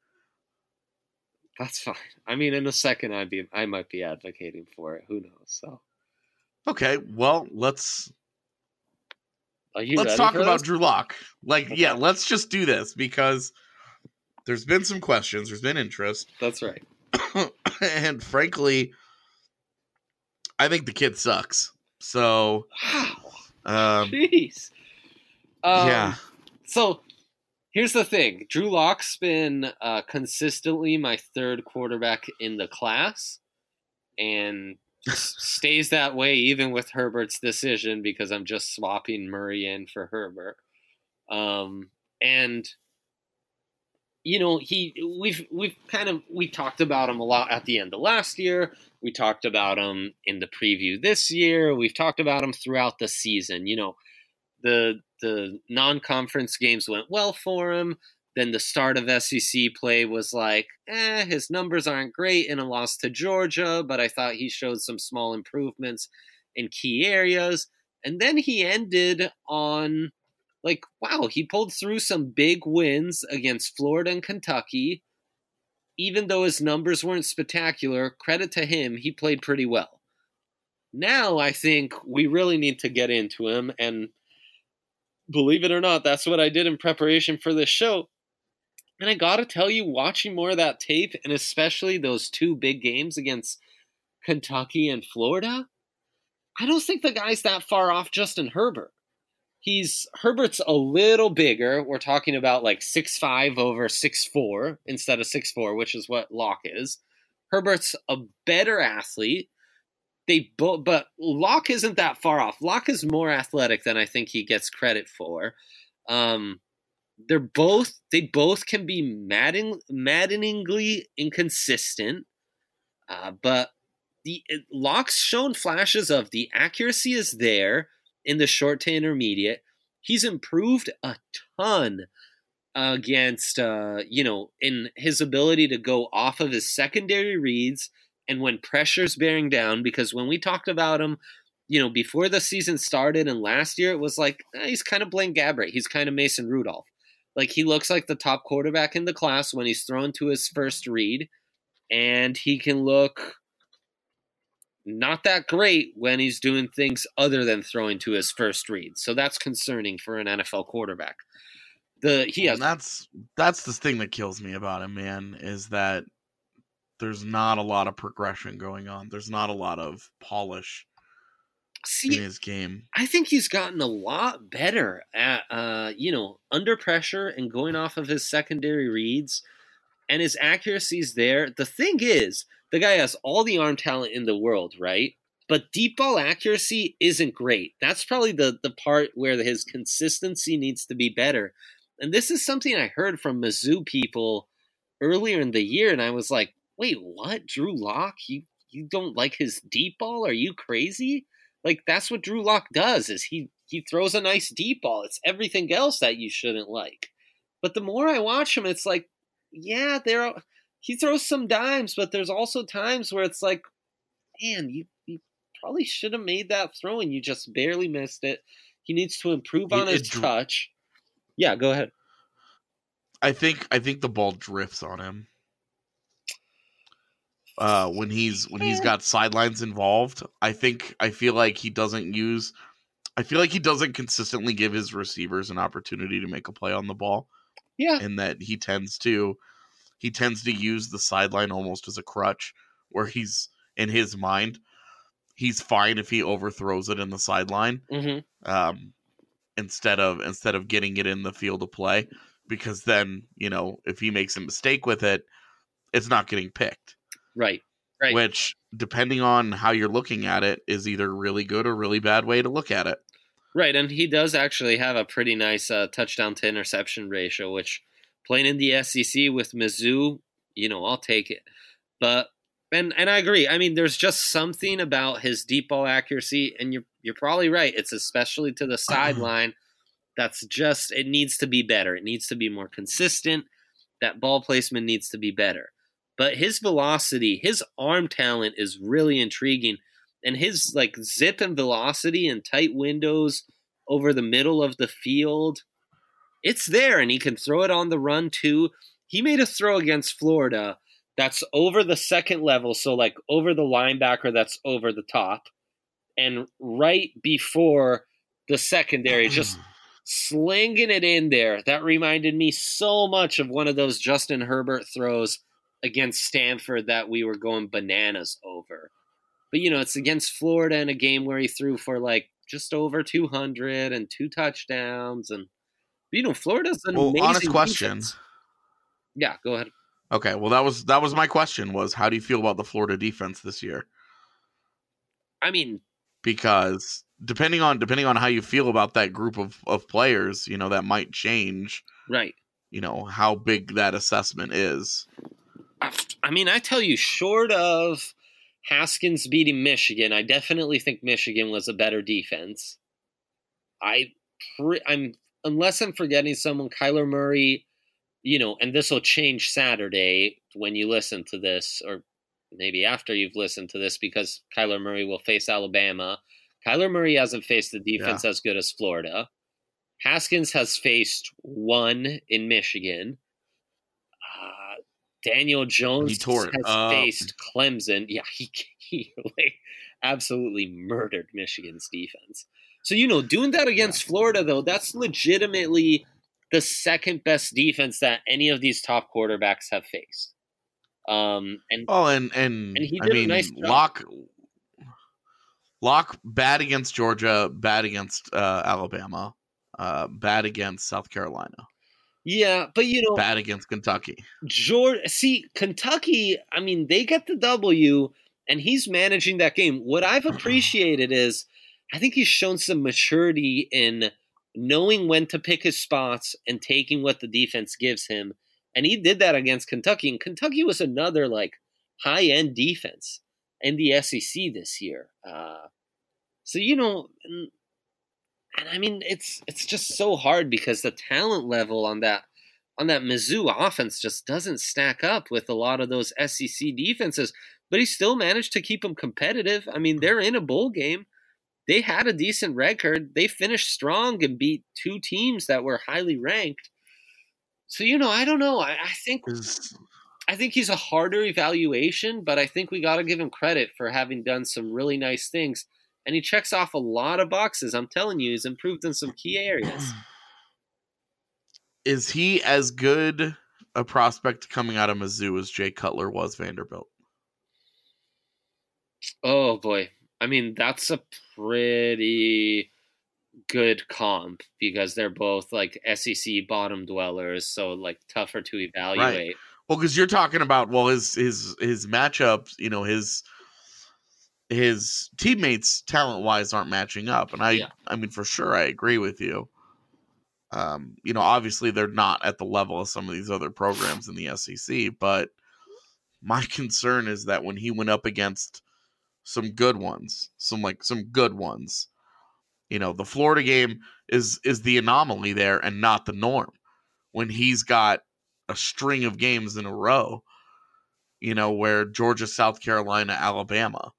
That's fine. I mean, in a second, I'd be I might be advocating for it. Who knows? So Okay, well let's are you let's ready talk for about this? Drew Lock. Like, Okay. yeah, let's just do this because there's been some questions, there's been interest, That's right. and frankly, I think the kid sucks. So, Wow. um, Jeez. Um, yeah. So here's the thing: Drew Lock's been uh, consistently my third quarterback in the class, and s- stays that way even with Herbert's decision because I'm just swapping Murray in for Herbert. Um, and you know, he we've we've kind of we talked about him a lot at the end of last year. We talked about him in the preview this year. We've talked about him throughout the season. You know, the the non-conference games went well for him. Then the start of S E C play was like, eh, his numbers aren't great in a loss to Georgia, but I thought he showed some small improvements in key areas. And then he ended on, like, wow, he pulled through some big wins against Florida and Kentucky. Even though his numbers weren't spectacular, credit to him, he played pretty well. Now I think we really need to get into him, and believe it or not, that's what I did in preparation for this show. And I gotta tell you, watching more of that tape, and especially those two big games against Kentucky and Florida, I don't think the guy's that far off Justin Herbert. He's Herbert's a little bigger. We're talking about like six five over six four instead of six four, which is what Locke is. Herbert's a better athlete. They both, but Locke isn't that far off. Locke is more athletic than I think he gets credit for. Um, they're both they both can be madden, maddeningly inconsistent, uh, but the it, Locke's shown flashes of the accuracy is there in the short to intermediate. He's improved a ton against, uh, you know, in his ability to go off of his secondary reads and when pressure's bearing down. Because when we talked about him, you know, before the season started and last year, it was like, eh, he's kind of Blaine Gabbert. He's kind of Mason Rudolph. Like, he looks like the top quarterback in the class when he's thrown to his first read, and he can look not that great when he's doing things other than throwing to his first read. So that's concerning for an N F L quarterback. The he has And that's that's the thing that kills me about him, man, is that there's not a lot of progression going on. There's not a lot of polish see, in his game. I think he's gotten a lot better at, uh, you know, under pressure and going off of his secondary reads, and his accuracy's there. The thing is, the guy has all the arm talent in the world, right? But deep ball accuracy isn't great. That's probably the, the part where his consistency needs to be better. And this is something I heard from Mizzou people earlier in the year, and I was like, wait, what? Drew Lock? You you don't like his deep ball? Are you crazy? Like, that's what Drew Lock does, is he, he throws a nice deep ball. It's everything else that you shouldn't like. But the more I watch him, it's like, yeah, there are, he throws some dimes, but there's also times where it's like, man, you, you probably should have made that throw and you just barely missed it. He needs to improve on It- his it dr- touch. Yeah, go ahead. I think I think the ball drifts on him. Uh, when he's when he's got sidelines involved, I think I feel like he doesn't use. I feel like he doesn't consistently give his receivers an opportunity to make a play on the ball, Yeah, and that he tends to he tends to use the sideline almost as a crutch, where he's in his mind he's fine if he overthrows it in the sideline, hmm um, instead of instead of getting it in the field of play, because then, you know, if he makes a mistake with it, it's not getting picked. right, right. Which, depending on how you're looking at it, is either really good or really bad way to look at it. Right, and he does actually have a pretty nice uh, touchdown to interception ratio, which playing in the S E C with Mizzou, you know, I'll take it. But and and I agree. I mean, there's just something about his deep ball accuracy, and you're you're probably right. It's especially to the sideline. That's just, it needs to be better. It needs to be more consistent. That ball placement needs to be better. But his velocity, his arm talent is really intriguing. And his like zip and velocity and tight windows over the middle of the field. It's there, and he can throw it on the run too. He made a throw against Florida that's over the second level, so like over the linebacker that's over the top, and right before the secondary, just slinging it in there. That reminded me so much of one of those Justin Herbert throws against Stanford that we were going bananas over. But, you know, it's against Florida in a game where he threw for like just over two hundred and two touchdowns. And, you know, Florida's an Well, amazing honest question. defense. Yeah, go ahead. Okay, well that was that was my question was how do you feel about the Florida defense this year? I mean, because depending on depending on how you feel about that group of, of players, you know, that might change, right. you know, how big that assessment is. I mean, I tell you, short of Haskins beating Michigan, I definitely think Michigan was a better defense. I, pre- I'm unless I'm forgetting someone, Kyler Murray, you know, and this will change Saturday when you listen to this, or maybe after you've listened to this, because Kyler Murray will face Alabama. Kyler Murray hasn't faced the defense yeah. as good as Florida. Haskins has faced one in Michigan. Uh, Daniel Jones has uh, faced Clemson. Yeah, he, he like, absolutely murdered Michigan's defense. So, you know, doing that against Florida, though, that's legitimately the second best defense that any of these top quarterbacks have faced. Um, and oh, and and, and he did I mean, a nice job. Locke, Locke bad against Georgia, bad against uh, Alabama, uh, bad against South Carolina. Yeah, but you know, bad against Kentucky. Georgia, see, Kentucky. I mean, they get the W, and he's managing that game. What I've appreciated is, I think he's shown some maturity in knowing when to pick his spots and taking what the defense gives him. And he did that against Kentucky. And Kentucky was another like high-end defense in the S E C this year. Uh, so, you know, and, and I mean, it's it's just so hard because the talent level on that on that Mizzou offense just doesn't stack up with a lot of those S E C defenses. But he still managed to keep them competitive. I mean, they're in a bowl game. They had a decent record. They finished strong and beat two teams that were highly ranked. So, you know, I don't know. I, I think I think he's a harder evaluation, but I think we got to give him credit for having done some really nice things. And he checks off a lot of boxes. I'm telling you, he's improved in some key areas. Is he as good a prospect coming out of Mizzou as Jay Cutler was Vanderbilt? Oh, boy. I mean, that's a pretty good comp because they're both like S E C bottom dwellers, so like tougher to evaluate. Right. Well, because you're talking about well, his his his matchups, you know, his his teammates talent wise aren't matching up, and I yeah. I mean for sure I agree with you. Um, you know, obviously they're not at the level of some of these other programs in the S E C, but my concern is that when he went up against some good ones, some like some good ones. You know, the Florida game is is the anomaly there and not the norm. When he's got a string of games in a row, you know, where Georgia, South Carolina, Alabama.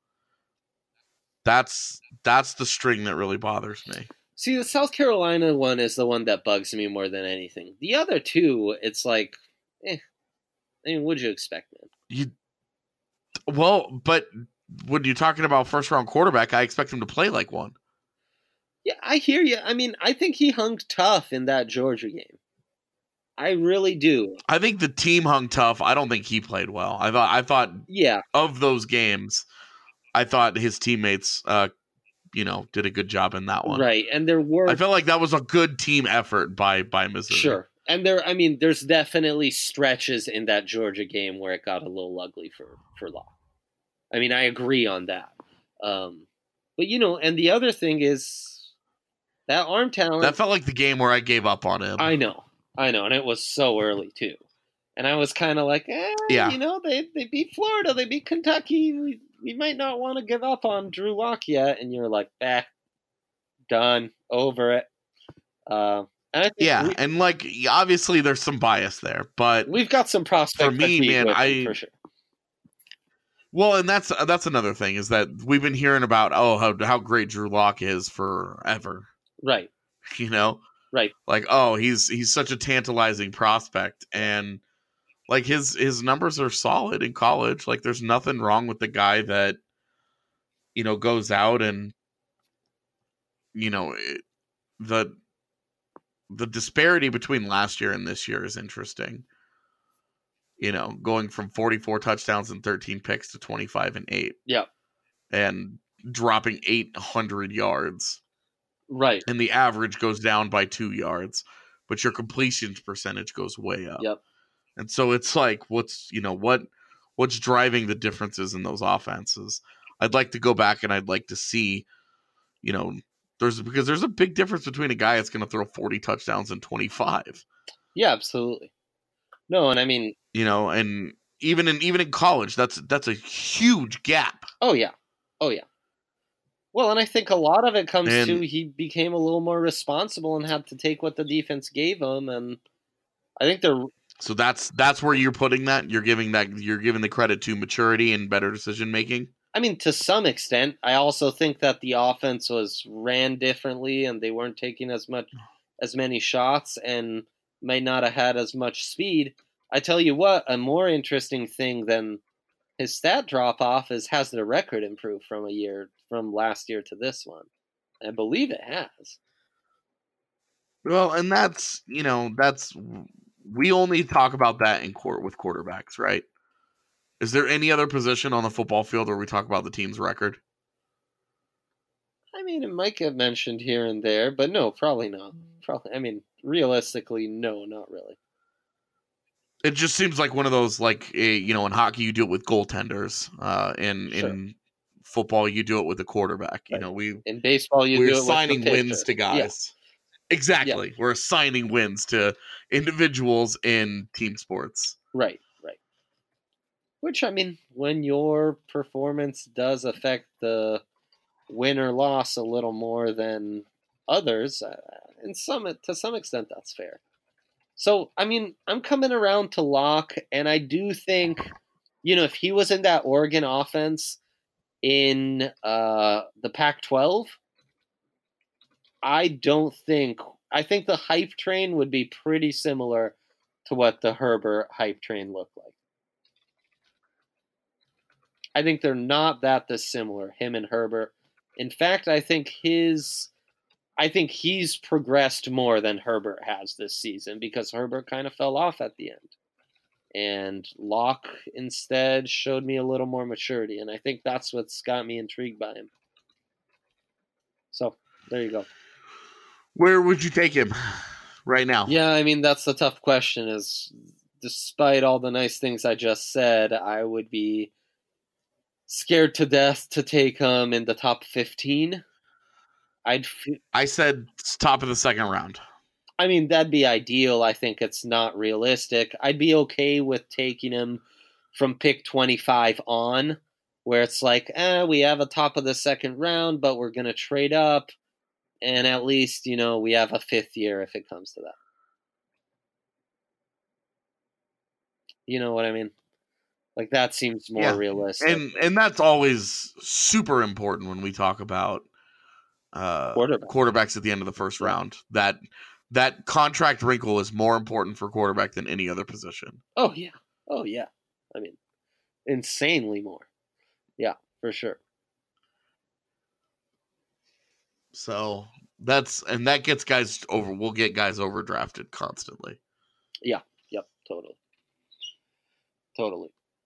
That's that's the string that really bothers me. See, the South Carolina one is the one that bugs me more than anything. The other two, it's like, eh. I mean, what'd you expect, man? You well, but when you're talking about first round quarterback, I expect him to play like one. Yeah, I hear you. I mean, I think he hung tough in that Georgia game. I really do. I think the team hung tough. I don't think he played well. I thought. I thought. Yeah. Of those games, I thought his teammates, uh, you know, did a good job in that one. Right, and there were. I felt like that was a good team effort by by Missouri. Sure, and there. I mean, there's definitely stretches in that Georgia game where it got a little ugly for for Law. I mean, I agree on that. Um, but you know, and the other thing is. That arm talent. That felt like the game where I gave up on him. I know. I know. And it was so early, too. And I was kind of like, eh, yeah. you know, they, they beat Florida. They beat Kentucky. We, we might not want to give up on Drew Lock yet. And you're like, back, done, over it. Uh, and I think yeah. we, and, like, obviously there's some bias there. But we've got some prospects for me, man, I. for sure. Well, and that's that's another thing is that we've been hearing about, oh, how, how great Drew Lock is forever. Right. You know, Right. like, oh, he's he's such a tantalizing prospect, and like his his numbers are solid in college. Like, there's nothing wrong with the guy that, you know, goes out and, you know, it, the the disparity between last year and this year is interesting. You know, going from forty-four touchdowns and thirteen picks to twenty-five and eight. Yeah. And dropping eight hundred yards. Right. And the average goes down by two yards, but your completions percentage goes way up. Yep. And so it's like, what's, you know, what, what's driving the differences in those offenses? I'd like to go back and I'd like to see, you know, there's, because there's a big difference between a guy that's going to throw forty touchdowns and twenty-five. Yeah, absolutely. No, and I mean, you know, and even in, even in college, that's, that's a huge gap. Oh yeah. Oh yeah. Well, and I think a lot of it comes and, to he became a little more responsible and had to take what the defense gave him, and I think they're so that's that's where you're putting that. You're giving that you're giving the credit to maturity and better decision making. I mean, to some extent. I also think that the offense was ran differently, and they weren't taking as much as many shots, and might not have had as much speed. I tell you what, a more interesting thing than his stat drop off is has the record improved from a year from last year to this one. I believe it has. Well, and that's, you know, that's we only talk about that in court with quarterbacks, right? Is there any other position on the football field where we talk about the team's record? I mean, it might get mentioned here and there, but no, probably not. Probably, I mean, realistically, no, not really. It just seems like one of those, like, a, you know, in hockey you do it with goaltenders. Uh, in Sure. in football you do it with a quarterback. You Right. know, we In baseball, you we're do it assigning with the wins pitcher. to guys. Exactly, we're assigning wins to individuals in team sports. Right, right. Which, I mean, when your performance does affect the win or loss a little more than others, uh, in some to some extent, that's fair. So, I mean, I'm coming around to Locke, and I do think, you know, if he was in that Oregon offense in uh, the Pac twelve, I don't think I think the hype train would be pretty similar to what the Herbert hype train looked like. I think they're not that dissimilar, him and Herbert. In fact, I think his I think he's progressed more than Herbert has this season because Herbert kind of fell off at the end. And Locke instead showed me a little more maturity, and I think that's what's got me intrigued by him. So, there you go. Where would you take him right now? Yeah, I mean, that's the tough question is, despite all the nice things I just said, I would be scared to death to take him in the top fifteen. I'd. F- I said top of the second round. I mean, that'd be ideal. I think it's not realistic. I'd be okay with taking him from pick twenty-five on, where it's like, eh, we have a top of the second round, but we're going to trade up. And at least, you know, we have a fifth year if it comes to that. You know what I mean? Like, that seems more Yeah. realistic. And and that's always super important when we talk about uh, Quarterback. quarterbacks at the end of the first round. That that contract wrinkle is more important for quarterback than any other position. Oh, yeah. Oh, yeah. I mean, insanely more. Yeah, for sure. So that's and that gets guys over. We'll get guys overdrafted constantly. Yeah. Yep. Totally. Totally.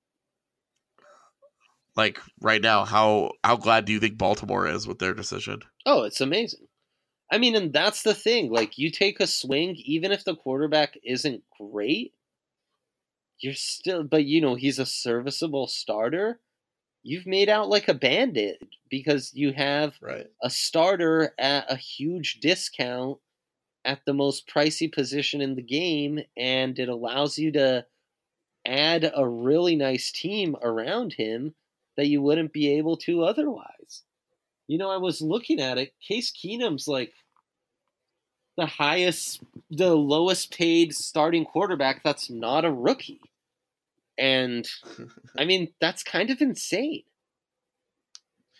Like right now, how how glad do you think Baltimore is with their decision? Oh, it's amazing. I mean, and that's the thing. Like, you take a swing, even if the quarterback isn't great, you're still, but you know, he's a serviceable starter. You've made out like a bandit because you have Right. a starter at a huge discount at the most pricey position in the game, and it allows you to add a really nice team around him that you wouldn't be able to otherwise. You know, I was looking at it. Case Keenum's like the highest, the lowest paid starting quarterback that's not a rookie. And, I mean, that's kind of insane.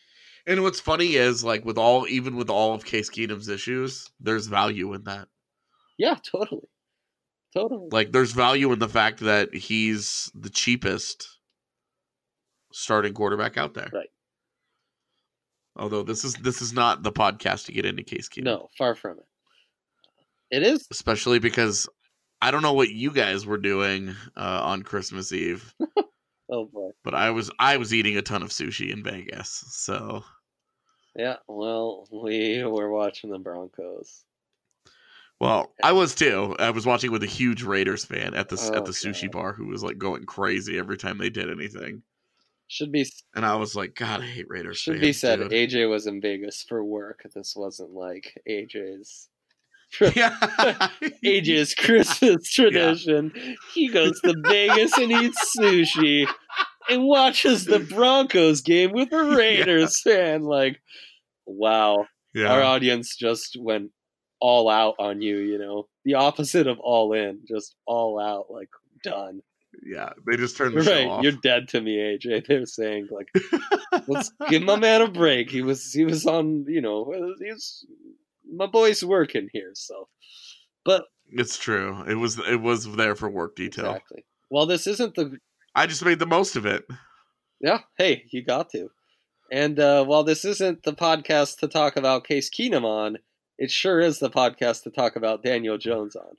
And what's funny is, like, with all, even with all of Case Keenum's issues, there's value in that. Yeah, totally. Totally. Like, there's value in the fact that he's the cheapest starting quarterback out there. Right. Although this is this is not the podcast to get into Case Keenum. No, far from it. It is. Especially because I don't know what you guys were doing uh, on Christmas Eve. Oh boy. But I was I was eating a ton of sushi in Vegas. So yeah, well, we were watching the Broncos. Well, I was too. I was watching with a huge Raiders fan at the Oh, at the sushi God. bar who was like going crazy every time they did anything. Should be And I was like, God, I hate Raiders should fans, be said. dude. A J was in Vegas for work. This wasn't like A J's. Yeah. A J's Christmas tradition. He goes to Vegas and eats sushi and watches the Broncos game with a Raiders fan. Like, wow. Yeah. Our audience just went all out on you, you know. The opposite of all in. Just all out, like, done. Yeah. They just turned the show Right. off. You're dead to me, A J. They're saying, like, let's give my man a break. He was he was on, you know, he's my boy's working here, so but It's true. It was it was there for work detail. exactly. Well, this isn't the I just made the most of it. yeah, hey, you got to. And uh, while this isn't the podcast to talk about Case Keenum on, it sure is the podcast to talk about Daniel Jones on.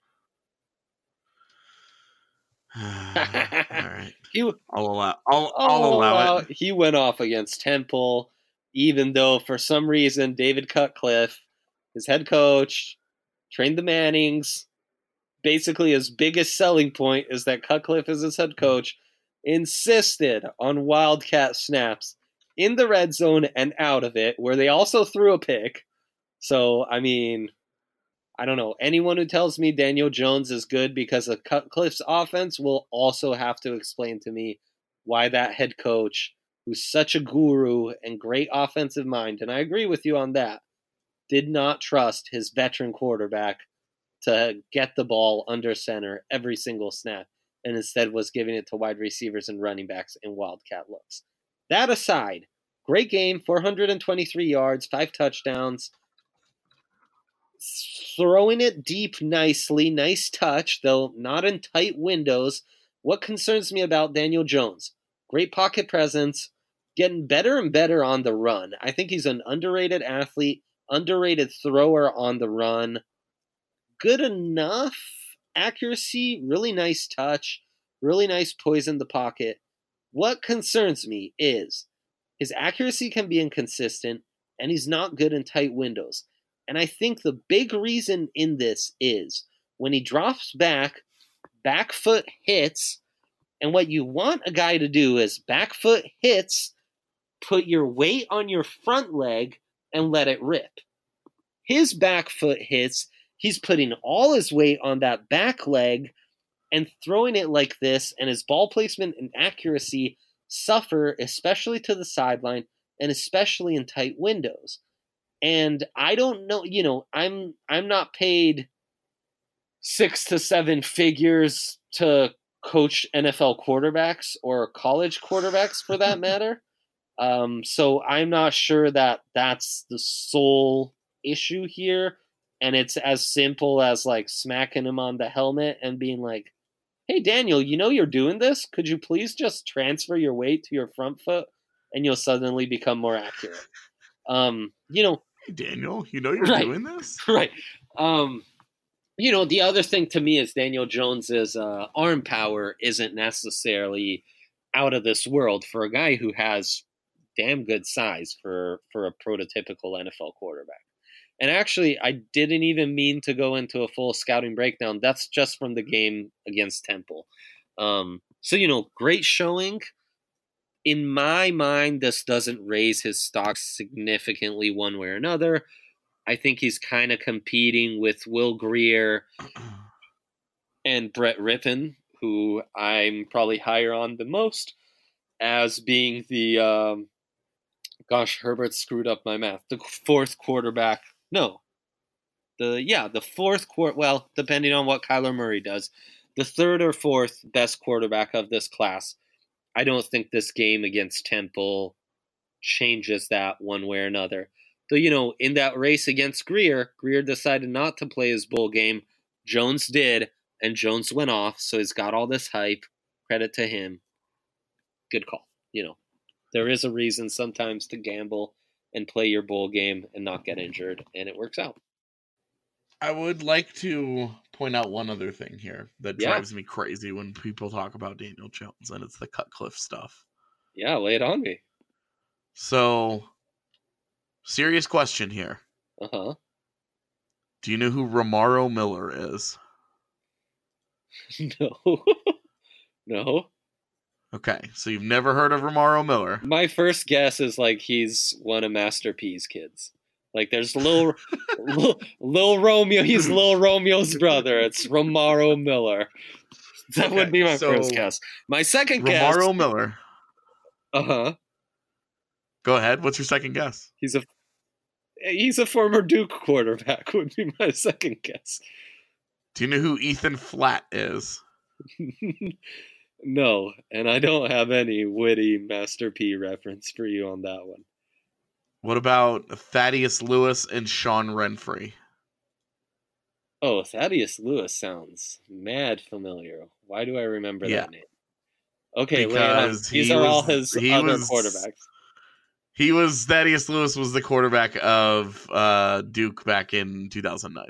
All right. He, I'll allow I'll, oh, I'll allow wow, it. he went off against Temple, even though for some reason David Cutcliffe, his head coach, trained the Mannings. Basically, his biggest selling point is that Cutcliffe is his head coach, insisted on Wildcat snaps in the red zone and out of it, where they also threw a pick. So, I mean, I don't know. Anyone who tells me Daniel Jones is good because of Cutcliffe's offense will also have to explain to me why that head coach, who's such a guru and great offensive mind, and I agree with you on that, did not trust his veteran quarterback to get the ball under center every single snap, and instead was giving it to wide receivers and running backs in wildcat looks. That aside, great game, four hundred twenty-three yards, five touchdowns, throwing it deep nicely, nice touch, though not in tight windows. What concerns me about Daniel Jones? Great pocket presence, getting better and better on the run. I think he's an underrated athlete, underrated thrower on the run. Good enough accuracy, really nice touch, really nice poise in the pocket. What concerns me is his accuracy can be inconsistent, and he's not good in tight windows. And I think the big reason in this is when he drops back, back foot hits, and what you want a guy to do is back foot hits, put your weight on your front leg, and let it rip. His back foot hits, he's putting all his weight on that back leg and throwing it like this, and his ball placement and accuracy suffer, especially to the sideline and especially in tight windows. And I don't know, you know, I'm I'm not paid six to seven figures to coach N F L quarterbacks or college quarterbacks for that matter. Um, so I'm not sure that that's the sole issue here. And it's as simple as like smacking him on the helmet and being like, hey, Daniel, you know you're doing this? Could you please just transfer your weight to your front foot and you'll suddenly become more accurate? Um, you know, Hey, Daniel, you know you're Right. doing this? right. Um, you know, the other thing to me is Daniel Jones's uh, arm power isn't necessarily out of this world for a guy who has damn good size for, for a prototypical N F L quarterback. And actually, I didn't even mean to go into a full scouting breakdown. That's just from the game against Temple. Um, so, you know, great showing. In my mind, this doesn't raise his stock significantly one way or another. I think he's kind of competing with Will Grier and Brett Rippon, who I'm probably higher on the most, as being the, um, gosh, Herbert screwed up my math, the fourth quarterback. No, the, yeah, the fourth quarter, well, depending on what Kyler Murray does, the third or fourth best quarterback of this class. I don't think this game against Temple changes that one way or another. So, you know, in that race against Greer, Greer decided not to play his bowl game. Jones did, and Jones went off, so he's got all this hype. Credit to him. Good call. You know, there is a reason sometimes to gamble and play your bowl game and not get injured, and it works out. I would like to point out one other thing here that Yeah. drives me crazy when people talk about Daniel Jones, and it's the Cutcliffe stuff. Yeah, lay it on me. So, serious question here. Uh-huh. Do you know who Romaro Miller is? No. No. Okay, so you've never heard of Romaro Miller. My first guess is like he's one of Master P's kids. Like there's Lil, Lil, Lil Romeo. He's Lil Romeo's brother. It's Romaro Miller. That Okay, would be my so first guess. My second guess. Romaro Miller. Uh-huh. Go ahead. What's your second guess? He's a he's a former Duke quarterback would be my second guess. Do you know who Ethan Flatt is? No, and I don't have any witty Master P reference for you on that one. What about Thaddeus Lewis and Sean Renfrey? Oh, Thaddeus Lewis sounds mad familiar. Why do I remember Yeah. that name? Okay, lay it on. Because These he are all was- his he other was- quarterbacks. He was Thaddeus Lewis was the quarterback of uh, Duke back in two thousand nine.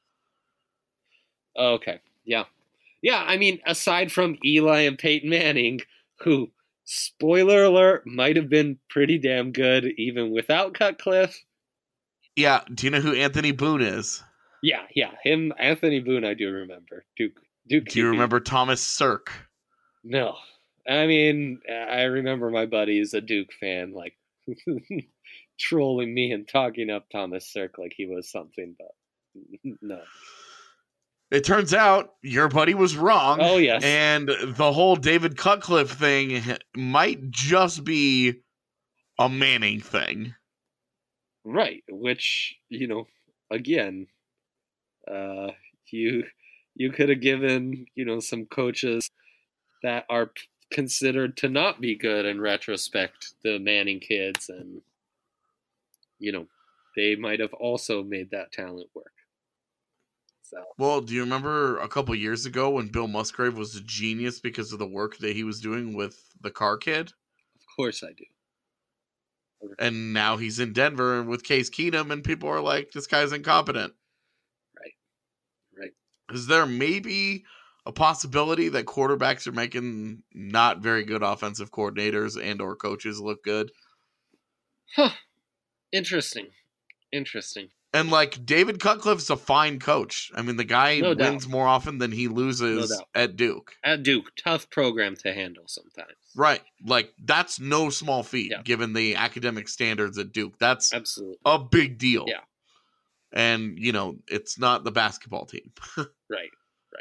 Okay, yeah. Yeah, I mean, aside from Eli and Peyton Manning, who, spoiler alert, might have been pretty damn good even without Cutcliffe. Yeah. Do you know who Anthony Boone is? Yeah, yeah, him, Anthony Boone, I do remember. Duke, Duke. Do you Q B. remember Thomas Sirk? No. I mean, I remember my buddy's a Duke fan, like, trolling me and talking up Thomas Sirk like he was something, but no. It turns out your buddy was wrong. Oh, yes. And the whole David Cutcliffe thing might just be a Manning thing. Right, which, you know, again, uh, you you could have given, you know, some coaches that are p- considered to not be good in retrospect, the Manning kids, and, you know, they might have also made that talent work. So, Well, do you remember a couple years ago when Bill Musgrave was a genius because of the work that he was doing with the car kid? of course I do. And now he's in Denver with Case Keenum, and people are like, this guy's incompetent. Right. Right. Is there maybe a possibility that quarterbacks are making not very good offensive coordinators and or coaches look good? Huh. Interesting. Interesting. And like David Cutcliffe's a fine coach. I mean, the guy No doubt. wins more often than he loses No doubt. at Duke. At Duke, tough program to handle sometimes. Right. Like that's no small feat Yeah. given the academic standards at Duke. That's Absolutely. a big deal. Yeah. And, you know, it's not the basketball team. Right.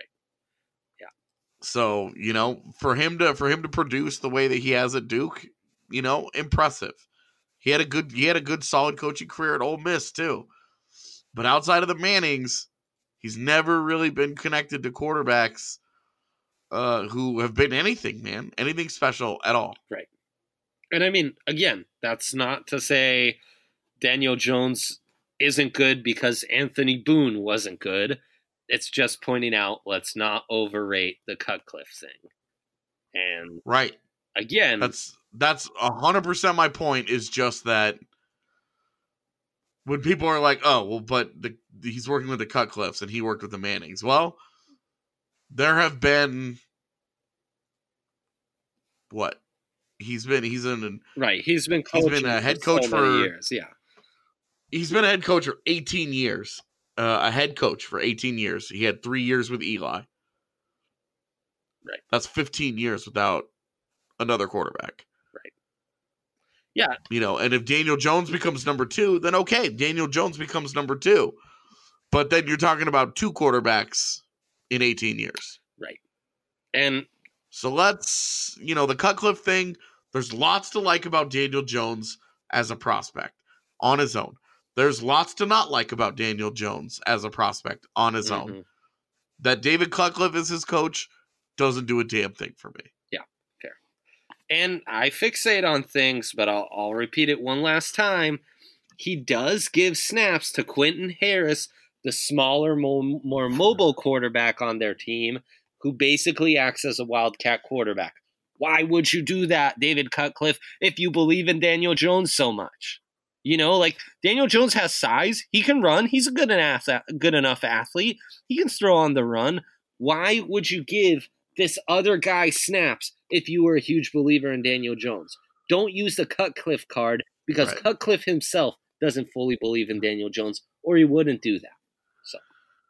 So, you know, for him to for him to produce the way that he has at Duke, you know, impressive. He had a good he had a good solid coaching career at Ole Miss too. But outside of the Mannings, he's never really been connected to quarterbacks uh, who have been anything, man, anything special at all. And I mean, again, that's not to say Daniel Jones isn't good because Anthony Boone wasn't good. It's just pointing out, let's not overrate the Cutcliffe thing. And Right. again, That's that's a hundred percent my point. Is just that when people are like, "Oh, well, but the, he's working with the Cutcliffes and he worked with the Mannings." Well, there have been what he's been. He's in. right, he's been He's coaching been a head for coach so many for- years. Yeah, He's been a head coach for eighteen years. Uh, a head coach for eighteen years. He had three years with Eli. Right. That's fifteen years without another quarterback. Right. Yeah. You know, and if Daniel Jones becomes number two, then okay, Daniel Jones becomes number two. But then you're talking about two quarterbacks in eighteen years. right. And So let's, you know, the Cutcliffe thing, there's lots to like about Daniel Jones as a prospect on his own. There's lots to not like about Daniel Jones as a prospect on his own. mhm, That David Cutcliffe is his coach doesn't do a damn thing for me. And I fixate on things, but I'll, I'll repeat it one last time. He does give snaps to Quentin Harris, the smaller, more, more mobile quarterback on their team, who basically acts as a wildcat quarterback. Why would you do that, David Cutcliffe, if you believe in Daniel Jones so much? You know, like, Daniel Jones has size. He can run. He's a good enough, good enough athlete. He can throw on the run. Why would you give this other guy snaps if you were a huge believer in Daniel Jones? Don't use the Cutcliffe card, because right. Cutcliffe himself doesn't fully believe in Daniel Jones, or he wouldn't do that. So,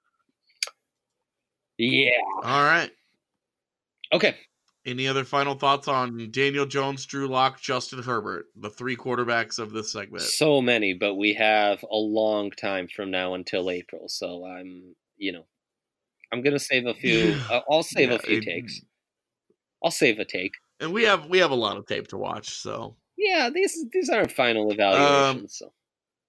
yeah. All right. Okay. Any other final thoughts on Daniel Jones, Drew Lock, Justin Herbert, the three quarterbacks of this segment? So many, but we have a long time from now until April. So I'm, you know, I'm gonna save a few. uh, I'll save yeah, a few it, takes. I'll save a take. And we have we have a lot of tape to watch. So yeah, these these aren't final evaluations. Um, so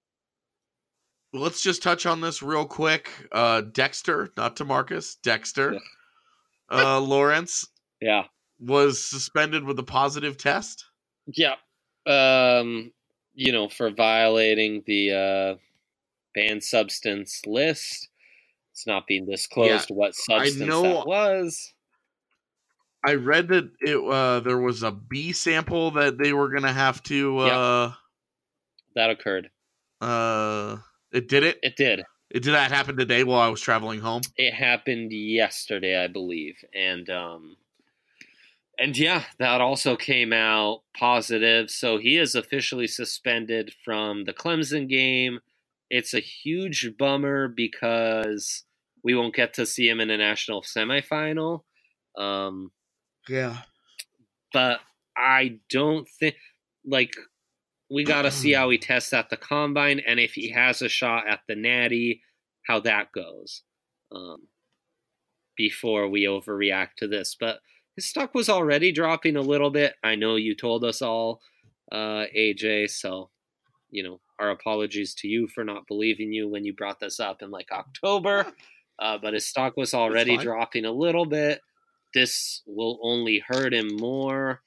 let's just touch on this real quick. Uh, Dexter, not Demarcus, Dexter, uh, Lawrence. Yeah. Was suspended with a positive test? Yeah. Um, you know, for violating the uh, banned substance list. It's not being disclosed yeah, what substance I know, that was. I read that it uh, there was a B sample that they were going to have to... Uh, yep. That occurred. Uh, it did it? It did. It did that happen today while I was traveling home? It happened yesterday, I believe. And... um. And yeah, that also came out positive. So he is officially suspended from the Clemson game. It's a huge bummer because we won't get to see him in a national semifinal. Um, yeah. But I don't think, like, we got to see how he tests at the combine and if he has a shot at the Natty, how that goes um, before we overreact to this. But his stock was already dropping a little bit. I know you told us all, uh, A J, so, you know, our apologies to you for not believing you when you brought this up in, like, October. Uh, but his stock was already dropping a little bit. This will only hurt him more.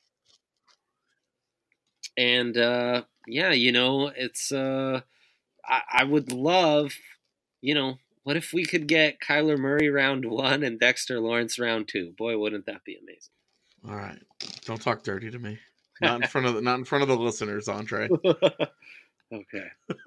And, uh, yeah, you know, it's, uh, I, I would love, you know, what if we could get Kyler Murray round one and Dexter Lawrence round two? Boy, wouldn't that be amazing? All right, don't talk dirty to me. Not in front of the, not in front of the listeners, Andre. Okay.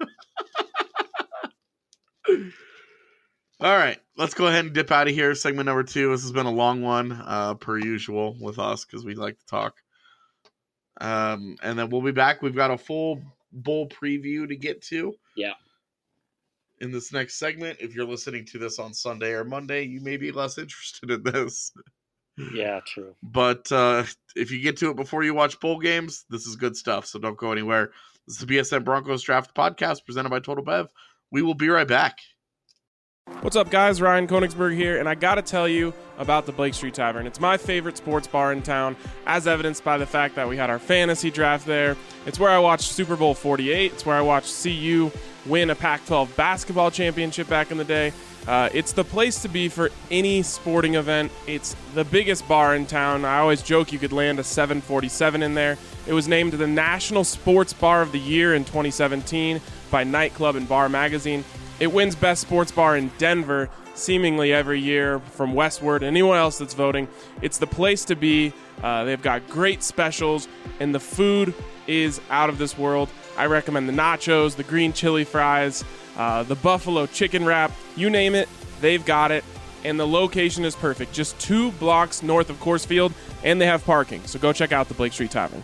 All right, let's go ahead and dip out of here. Segment number two. This has been a long one, uh, per usual with us because we like to talk. Um, and then we'll be back. We've got a full bowl preview to get to. Yeah. In this next segment, if you're listening to this on Sunday or Monday, you may be less interested in this. Yeah, true. But uh, if you get to it before you watch bowl games, this is good stuff. So don't go anywhere. This is the B S N Broncos Draft Podcast presented by Total Bev. We will be right back. What's up, guys? Ryan Koenigsberg here, and I got to tell you about the Blake Street Tavern. It's my favorite sports bar in town, as evidenced by the fact that we had our fantasy draft there. It's where I watched Super Bowl forty-eight. It's where I watched C U win a Pac twelve basketball championship back in the day. Uh, it's the place to be for any sporting event. It's the biggest bar in town. I always joke you could land a seven forty-seven in there. It was named the National Sports Bar of the Year in twenty seventeen by Nightclub and Bar Magazine. It wins Best Sports Bar in Denver seemingly every year from Westward. Anyone else that's voting, it's the place to be. Uh, they've got great specials, and the food is out of this world. I recommend the nachos, the green chili fries, uh, the buffalo chicken wrap. You name it, they've got it. And the location is perfect. Just two blocks north of Coors Field, and they have parking. So go check out the Blake Street Tavern.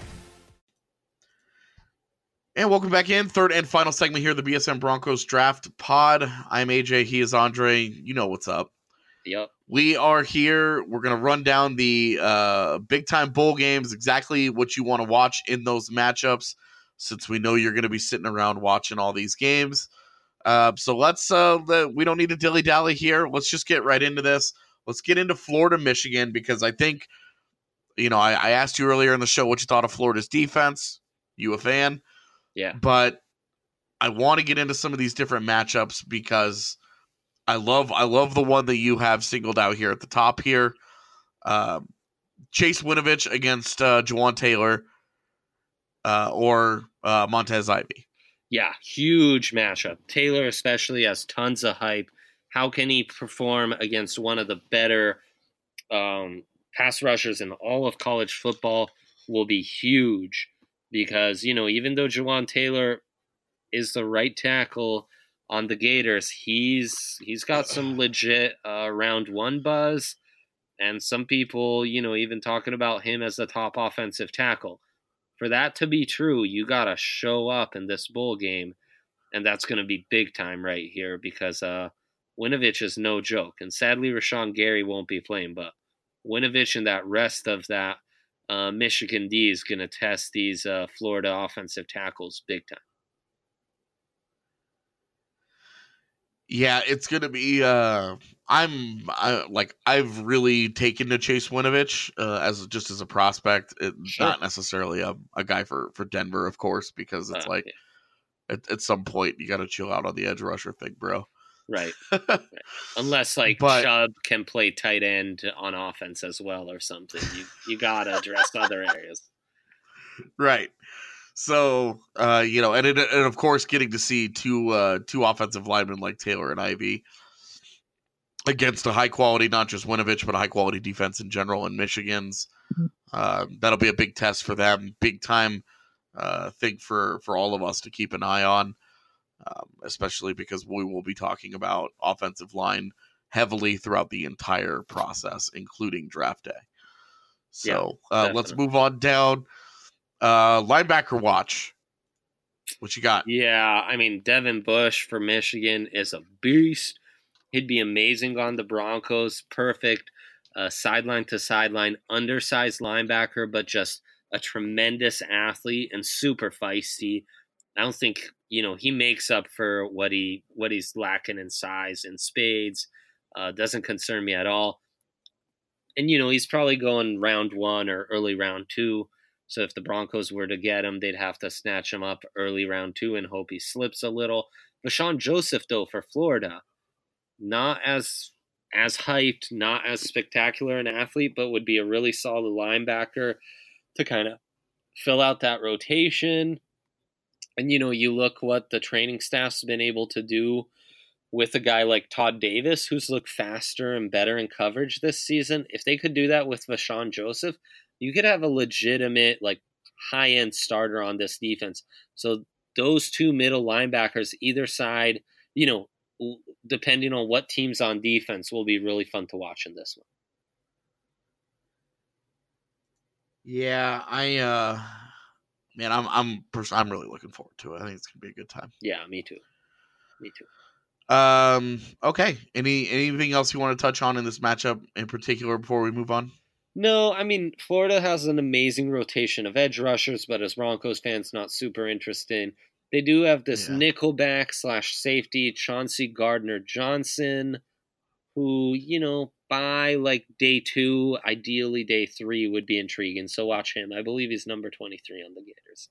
And welcome back in. Third and final segment here, the B S N Broncos Draft Pod. I'm A J. He is Andre. You know what's up. Yep. We are here. We're going to run down the uh, big-time bowl games, exactly what you want to watch in those matchups, since we know you're going to be sitting around watching all these games. Uh, so let's uh, – we don't need to dilly-dally here. Let's just get right into this. Let's get into Florida, Michigan, because I think, you know, I, I asked you earlier in the show what you thought of Florida's defense. You a fan? Yeah. But I want to get into some of these different matchups because I love I love the one that you have singled out here at the top here. Uh, Chase Winovich against uh, Juwan Taylor uh, or uh, Montez Ivy. Yeah, huge matchup. Taylor especially has tons of hype. How can he perform against one of the better um, pass rushers in all of college football will be huge because, you know, even though Juwan Taylor is the right tackle on the Gators, he's he's got some legit uh, round one buzz, and some people, you know, even talking about him as the top offensive tackle. For that to be true, you got to show up in this bowl game, and that's going to be big time right here because uh, Winovich is no joke. And sadly, Rashawn Gary won't be playing, but Winovich and that rest of that uh, Michigan D is going to test these uh, Florida offensive tackles big time. Yeah, it's going to be uh, – I'm I, like I've really taken to Chase Winovich uh, as just as a prospect. It, Sure. Not necessarily a, a guy for, for Denver, of course, because it's Uh, like yeah. at, at some point you got to chill out on the edge rusher thing, bro. Right. right. Unless like But- Chubb can play tight end on offense as well or something. You you gotta address other areas. Right. So, uh, you know, and, it, and of course, getting to see two uh, two offensive linemen like Taylor and Ivy against a high quality, not just Winovich, but a high quality defense in general in Michigan's. Uh, that'll be a big test for them, big time uh, thing for, for all of us to keep an eye on, um, especially because we will be talking about offensive line heavily throughout the entire process, including draft day. So Yeah, uh, let's definitely. move on down. Uh, linebacker watch. What you got? Yeah, I mean Devin Bush for Michigan is a beast. He'd be amazing on the Broncos. Perfect uh, sideline to sideline, undersized linebacker, but just a tremendous athlete and super feisty. I don't think you know he makes up for what he what he's lacking in size in spades. Uh, doesn't concern me at all. And you know he's probably going round one or early round two. So if the Broncos were to get him, they'd have to snatch him up early round two and hope he slips a little. Vashawn Joseph, though, for Florida, not as as hyped, not as spectacular an athlete, but would be a really solid linebacker to kind of fill out that rotation. And, you know, you look what the training staff's been able to do with a guy like Todd Davis, who's looked faster and better in coverage this season. If they could do that with Vashawn Joseph, you could have a legitimate, like, high-end starter on this defense. So those two middle linebackers, either side, you know, depending on what team's on defense, will be really fun to watch in this one. Yeah, I uh man, I'm I'm pers- I'm really looking forward to it. I think it's gonna be a good time. Yeah, me too. Me too. Um, okay. Any anything else you want to touch on in this matchup in particular before we move on? No, I mean, Florida has an amazing rotation of edge rushers, but as Broncos fans, not super interested. They do have this Yeah. nickelback slash safety, Chauncey Gardner-Johnson, who, you know, by like day two, ideally day three, would be intriguing. So watch him. I believe he's number twenty-three on the Gators.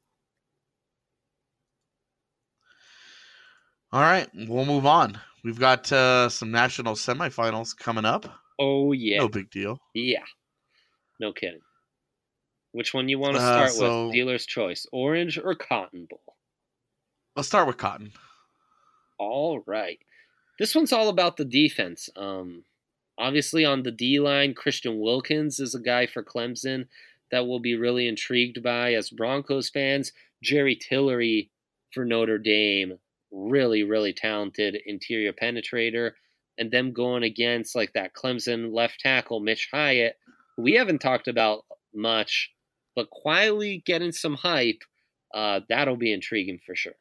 All right, we'll move on. We've got uh, some national semifinals coming up. Oh, yeah. No big deal. Yeah. No kidding. Which one you want to Uh, start so- with? Dealer's choice. Orange or Cotton Bowl? Let's start with Cotton. All right. This one's all about the defense. Um, obviously, on the D line, Christian Wilkins is a guy for Clemson that we'll be really intrigued by as Broncos fans. Jerry Tillery for Notre Dame, really, really talented interior penetrator. And them going against like that Clemson left tackle, Mitch Hyatt, who we haven't talked about much, but quietly getting some hype. Uh, that'll be intriguing for sure.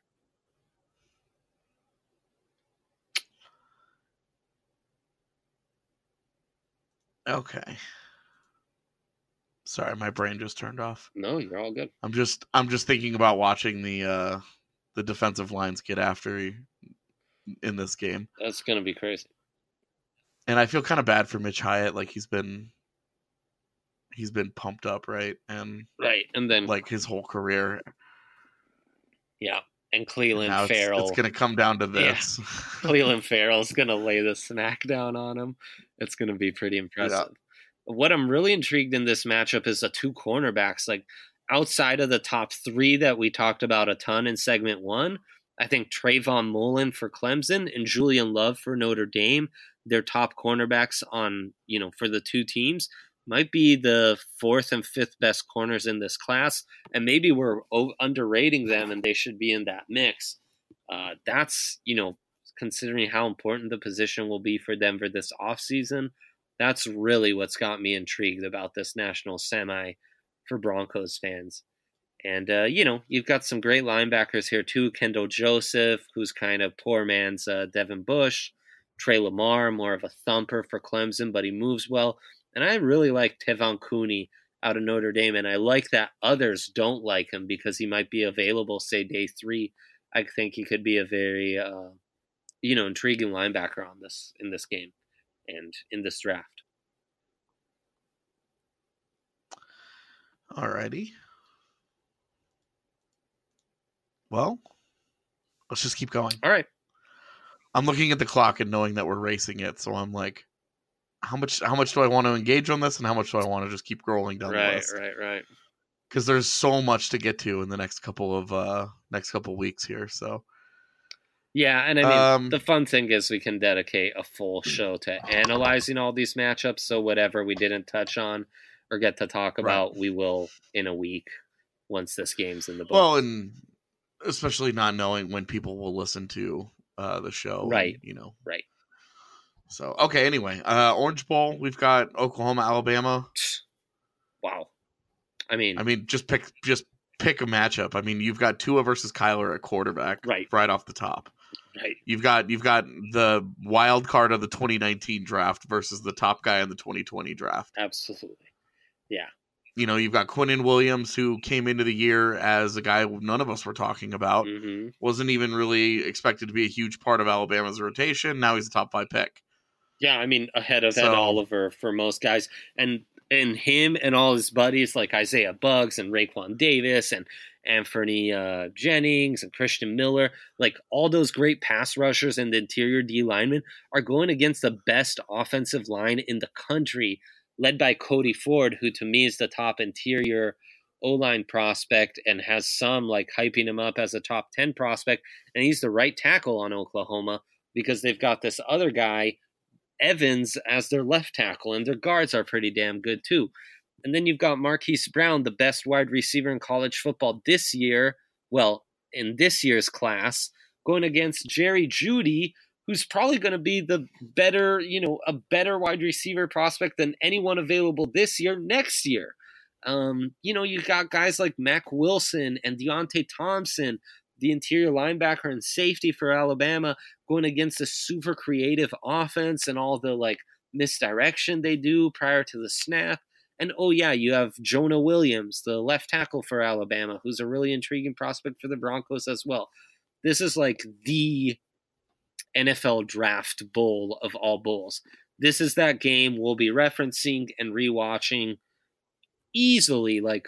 Okay. Sorry, my brain just turned off. No, you're all good. I'm just I'm just thinking about watching the uh the defensive lines get after you in this game. That's going to be crazy. And I feel kind of bad for Mitch Hyatt, like he's been he's been pumped up, right? And Right. And then, like his whole career. yeah. And And Cleveland now it's, Farrell. it's gonna come down to this. Cleveland Farrell's going to lay the snack down on him. It's going to be pretty impressive. what I'm really intrigued in this matchup is the two cornerbacks. Like outside of the top three that we talked about a ton in segment one, I think Trayvon Mullen for Clemson and Julian Love for Notre Dame, their top cornerbacks on, you know, for the two teams, might be the fourth and fifth best corners in this class. And maybe we're o- underrating them and they should be in that mix. Uh, that's, you know, considering how important the position will be for Denver this offseason, that's really what's got me intrigued about this national semi for Broncos fans. And, uh, you know, you've got some great linebackers here, too. Kendall Joseph, who's kind of poor man's uh, Devin Bush. Trey Lamar, more of a thumper for Clemson, but he moves well. And I really like Tevon Cooney out of Notre Dame, and I like that others don't like him because he might be available, say, day three. I think he could be a very, uh, you know, intriguing linebacker on this in this game and in this draft. Alrighty. Well, let's just keep going. All right. I'm looking at the clock and knowing that we're racing it, so I'm like, how much how much do I want to engage on this, and how much do I want to just keep scrolling down right, the list? Right, right, right. Because there's so much to get to in the next couple of uh, next couple of weeks here. So yeah, and I mean um, the fun thing is we can dedicate a full show to analyzing all these matchups. So whatever we didn't touch on or get to talk about, right. we will in a week once this game's in the book. Well, and especially not knowing when people will listen to uh, the show, right? And, you know, right. So, okay, anyway, uh, Orange Bowl, we've got Oklahoma, Alabama. Wow. I mean, I mean, just pick, just pick a matchup. I mean, you've got Tua versus Kyler at quarterback, right, right off the top. Right. You've got, you've got the wild card of the twenty nineteen draft versus the top guy in the twenty twenty draft. Absolutely. Yeah. You know, you've got Quinnen Williams, who came into the year as a guy none of us were talking about. Mm-hmm. Wasn't even really expected to be a huge part of Alabama's rotation. Now he's a top five pick. Yeah, I mean, ahead of So- Ed Oliver for most guys. And and him and all his buddies like Isaiah Buggs and Raekwon Davis and Anthony uh, Jennings and Christian Miller, like all those great pass rushers and the interior D linemen are going against the best offensive line in the country, led by Cody Ford, who to me is the top interior O-line prospect and has some like hyping him up as a top ten prospect. And he's the right tackle on Oklahoma because they've got this other guy, Evans, as their left tackle, and their guards are pretty damn good too. And then you've got Marquise Brown, the best wide receiver in college football this year, well, in this year's class, going against Jerry Jeudy, who's probably going to be the better, you know, a better wide receiver prospect than anyone available this year, next year. Um, you know, you got guys like Mac Wilson and Deontay Thompson, the interior linebacker and safety for Alabama, going against a super creative offense and all the like misdirection they do prior to the snap. And oh yeah, you have Jonah Williams, the left tackle for Alabama, who's a really intriguing prospect for the Broncos as well. This is like the N F L draft bowl of all bowls. This is that game we'll be referencing and rewatching easily, like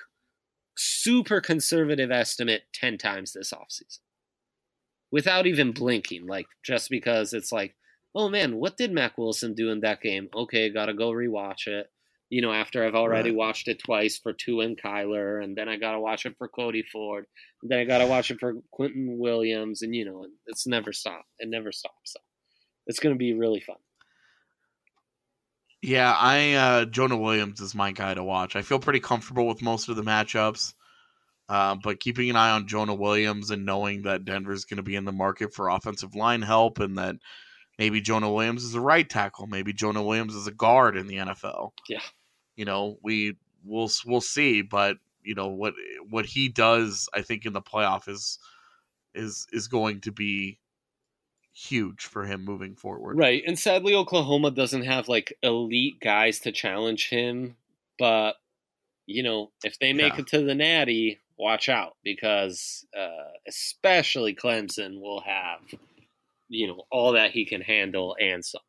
super conservative estimate, ten times this offseason. Without even blinking, like just because it's like, oh man, what did Mac Wilson do in that game? Okay, gotta go rewatch it. You know, after I've already Right. watched it twice for Tua and Kyler, and then I gotta watch it for Cody Ford, and then I gotta watch it for Quentin Williams, and you know, it's never stopped. It never stops. So it's gonna be really fun. Yeah, I uh, Jonah Williams is my guy to watch. I feel pretty comfortable with most of the matchups, uh, but keeping an eye on Jonah Williams and knowing that Denver's going to be in the market for offensive line help, and that maybe Jonah Williams is a right tackle, maybe Jonah Williams is a guard in the N F L. Yeah. You know, we we'll we'll see, but you know what what he does, I think in the playoff is is is going to be huge for him moving forward. Right, and sadly Oklahoma doesn't have like elite guys to challenge him, but you know, if they make Yeah. it to the Natty, watch out, because uh, especially Clemson will have, you know, all that he can handle and some.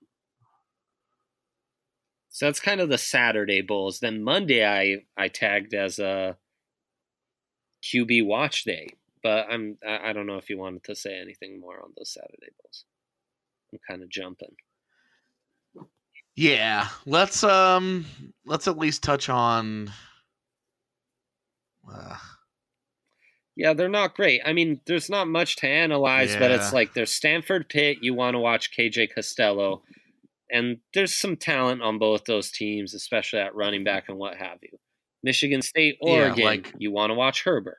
So that's kind of the Saturday Bulls. Then Monday I, I tagged as a Q B watch day. But I'm I I don't know if you wanted to say anything more on those Saturday Bulls. I'm kind of jumping. Yeah, let's um let's at least touch on. Uh, Yeah, they're not great. I mean, there's not much to analyze, but it's Yeah. like there's Stanford Pitt. You want to watch K J Costello. And there's some talent on both those teams, especially at running back and what have you. Michigan State, Yeah, Oregon, like- you want to watch Herbert.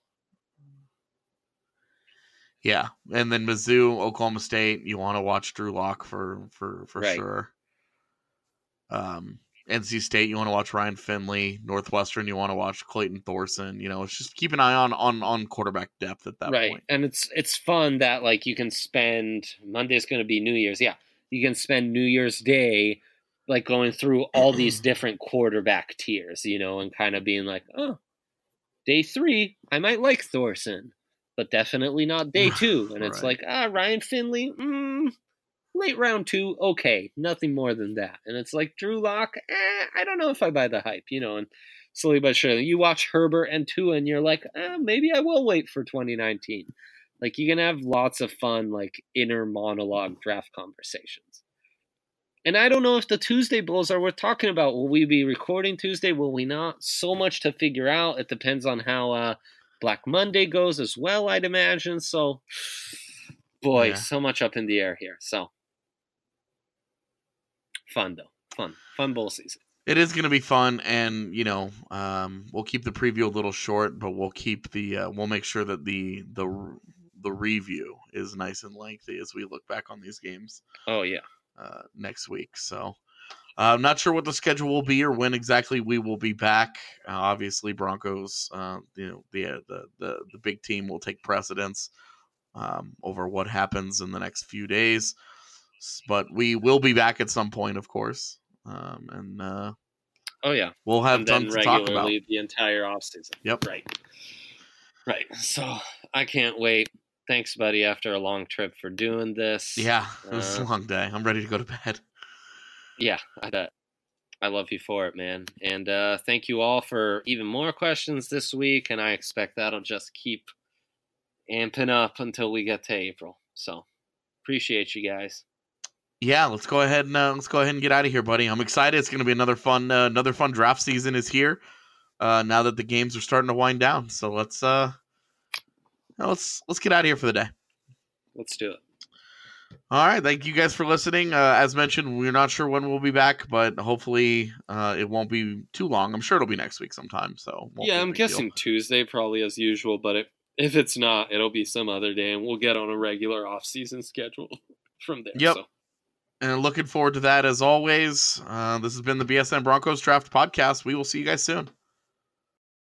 yeah, and then Mizzou, Oklahoma State. You want to watch Drew Lock for for for Right. sure. Um, N C State, you want to watch Ryan Finley. Northwestern, you want to watch Clayton Thorson. You know, it's just keep an eye on on on quarterback depth at that Right. point. And it's it's fun that like you can spend Monday's going to be New Year's. Yeah. You can spend New Year's Day like going through all these different quarterback tiers, you know, and kind of being like, "Oh, day three, I might like Thorson, but definitely not day two." And it's Right. like, "Ah, Ryan Finley, mm, late round two, okay, nothing more than that." And it's like Drew Lock, eh, I don't know if I buy the hype, you know, and slowly but surely you watch Herbert and Tua and you're like, eh, maybe I will wait for twenty nineteen. Like you can have lots of fun, like inner monologue draft conversations. And I don't know if the Tuesday Bulls are worth talking about. Will we be recording Tuesday? Will we not? So much to figure out. It depends on how uh, Black Monday goes as well, I'd imagine. So, boy, Yeah. so much up in the air here. So, fun though. Fun. Fun bowl season. It is going to be fun, and you know, um, we'll keep the preview a little short, but we'll keep the uh, we'll make sure that the the the review is nice and lengthy as we look back on these games Oh, yeah. uh, next week. So, uh, I'm not sure what the schedule will be or when exactly we will be back. Uh, obviously, Broncos, uh, you know, the, uh, the the the big team will take precedence um, over what happens in the next few days. S- But we will be back at some point, of course, um, and uh, Oh, yeah. we'll have And then tons to talk about. regularly the entire offseason. Yep. Right. Right. So, I can't wait. Thanks, buddy, after a long trip for doing this. Yeah, it was Uh, a long day. I'm ready to go to bed. Yeah, I bet. I love you for it, man. And uh, thank you all for even more questions this week. And I expect that'll just keep amping up until we get to April. So appreciate you guys. Yeah, let's go ahead and uh, let's go ahead and get out of here, buddy. I'm excited. It's going to be another fun uh, another fun draft season is here. Uh, now that the games are starting to wind down, so let's uh, let's let's get out of here for the day. Let's do it. All right, thank you guys for listening. Uh, as mentioned, we're not sure when we'll be back, but hopefully uh, it won't be too long. I'm sure it'll be next week sometime. So won't Yeah, be a I'm big deal. guessing Tuesday probably as usual. But if, if it's not, it'll be some other day. And we'll get on a regular off-season schedule from there. Yep. So. And looking forward to that as always. Uh, this has been the B S N Broncos Draft Podcast. We will see you guys soon.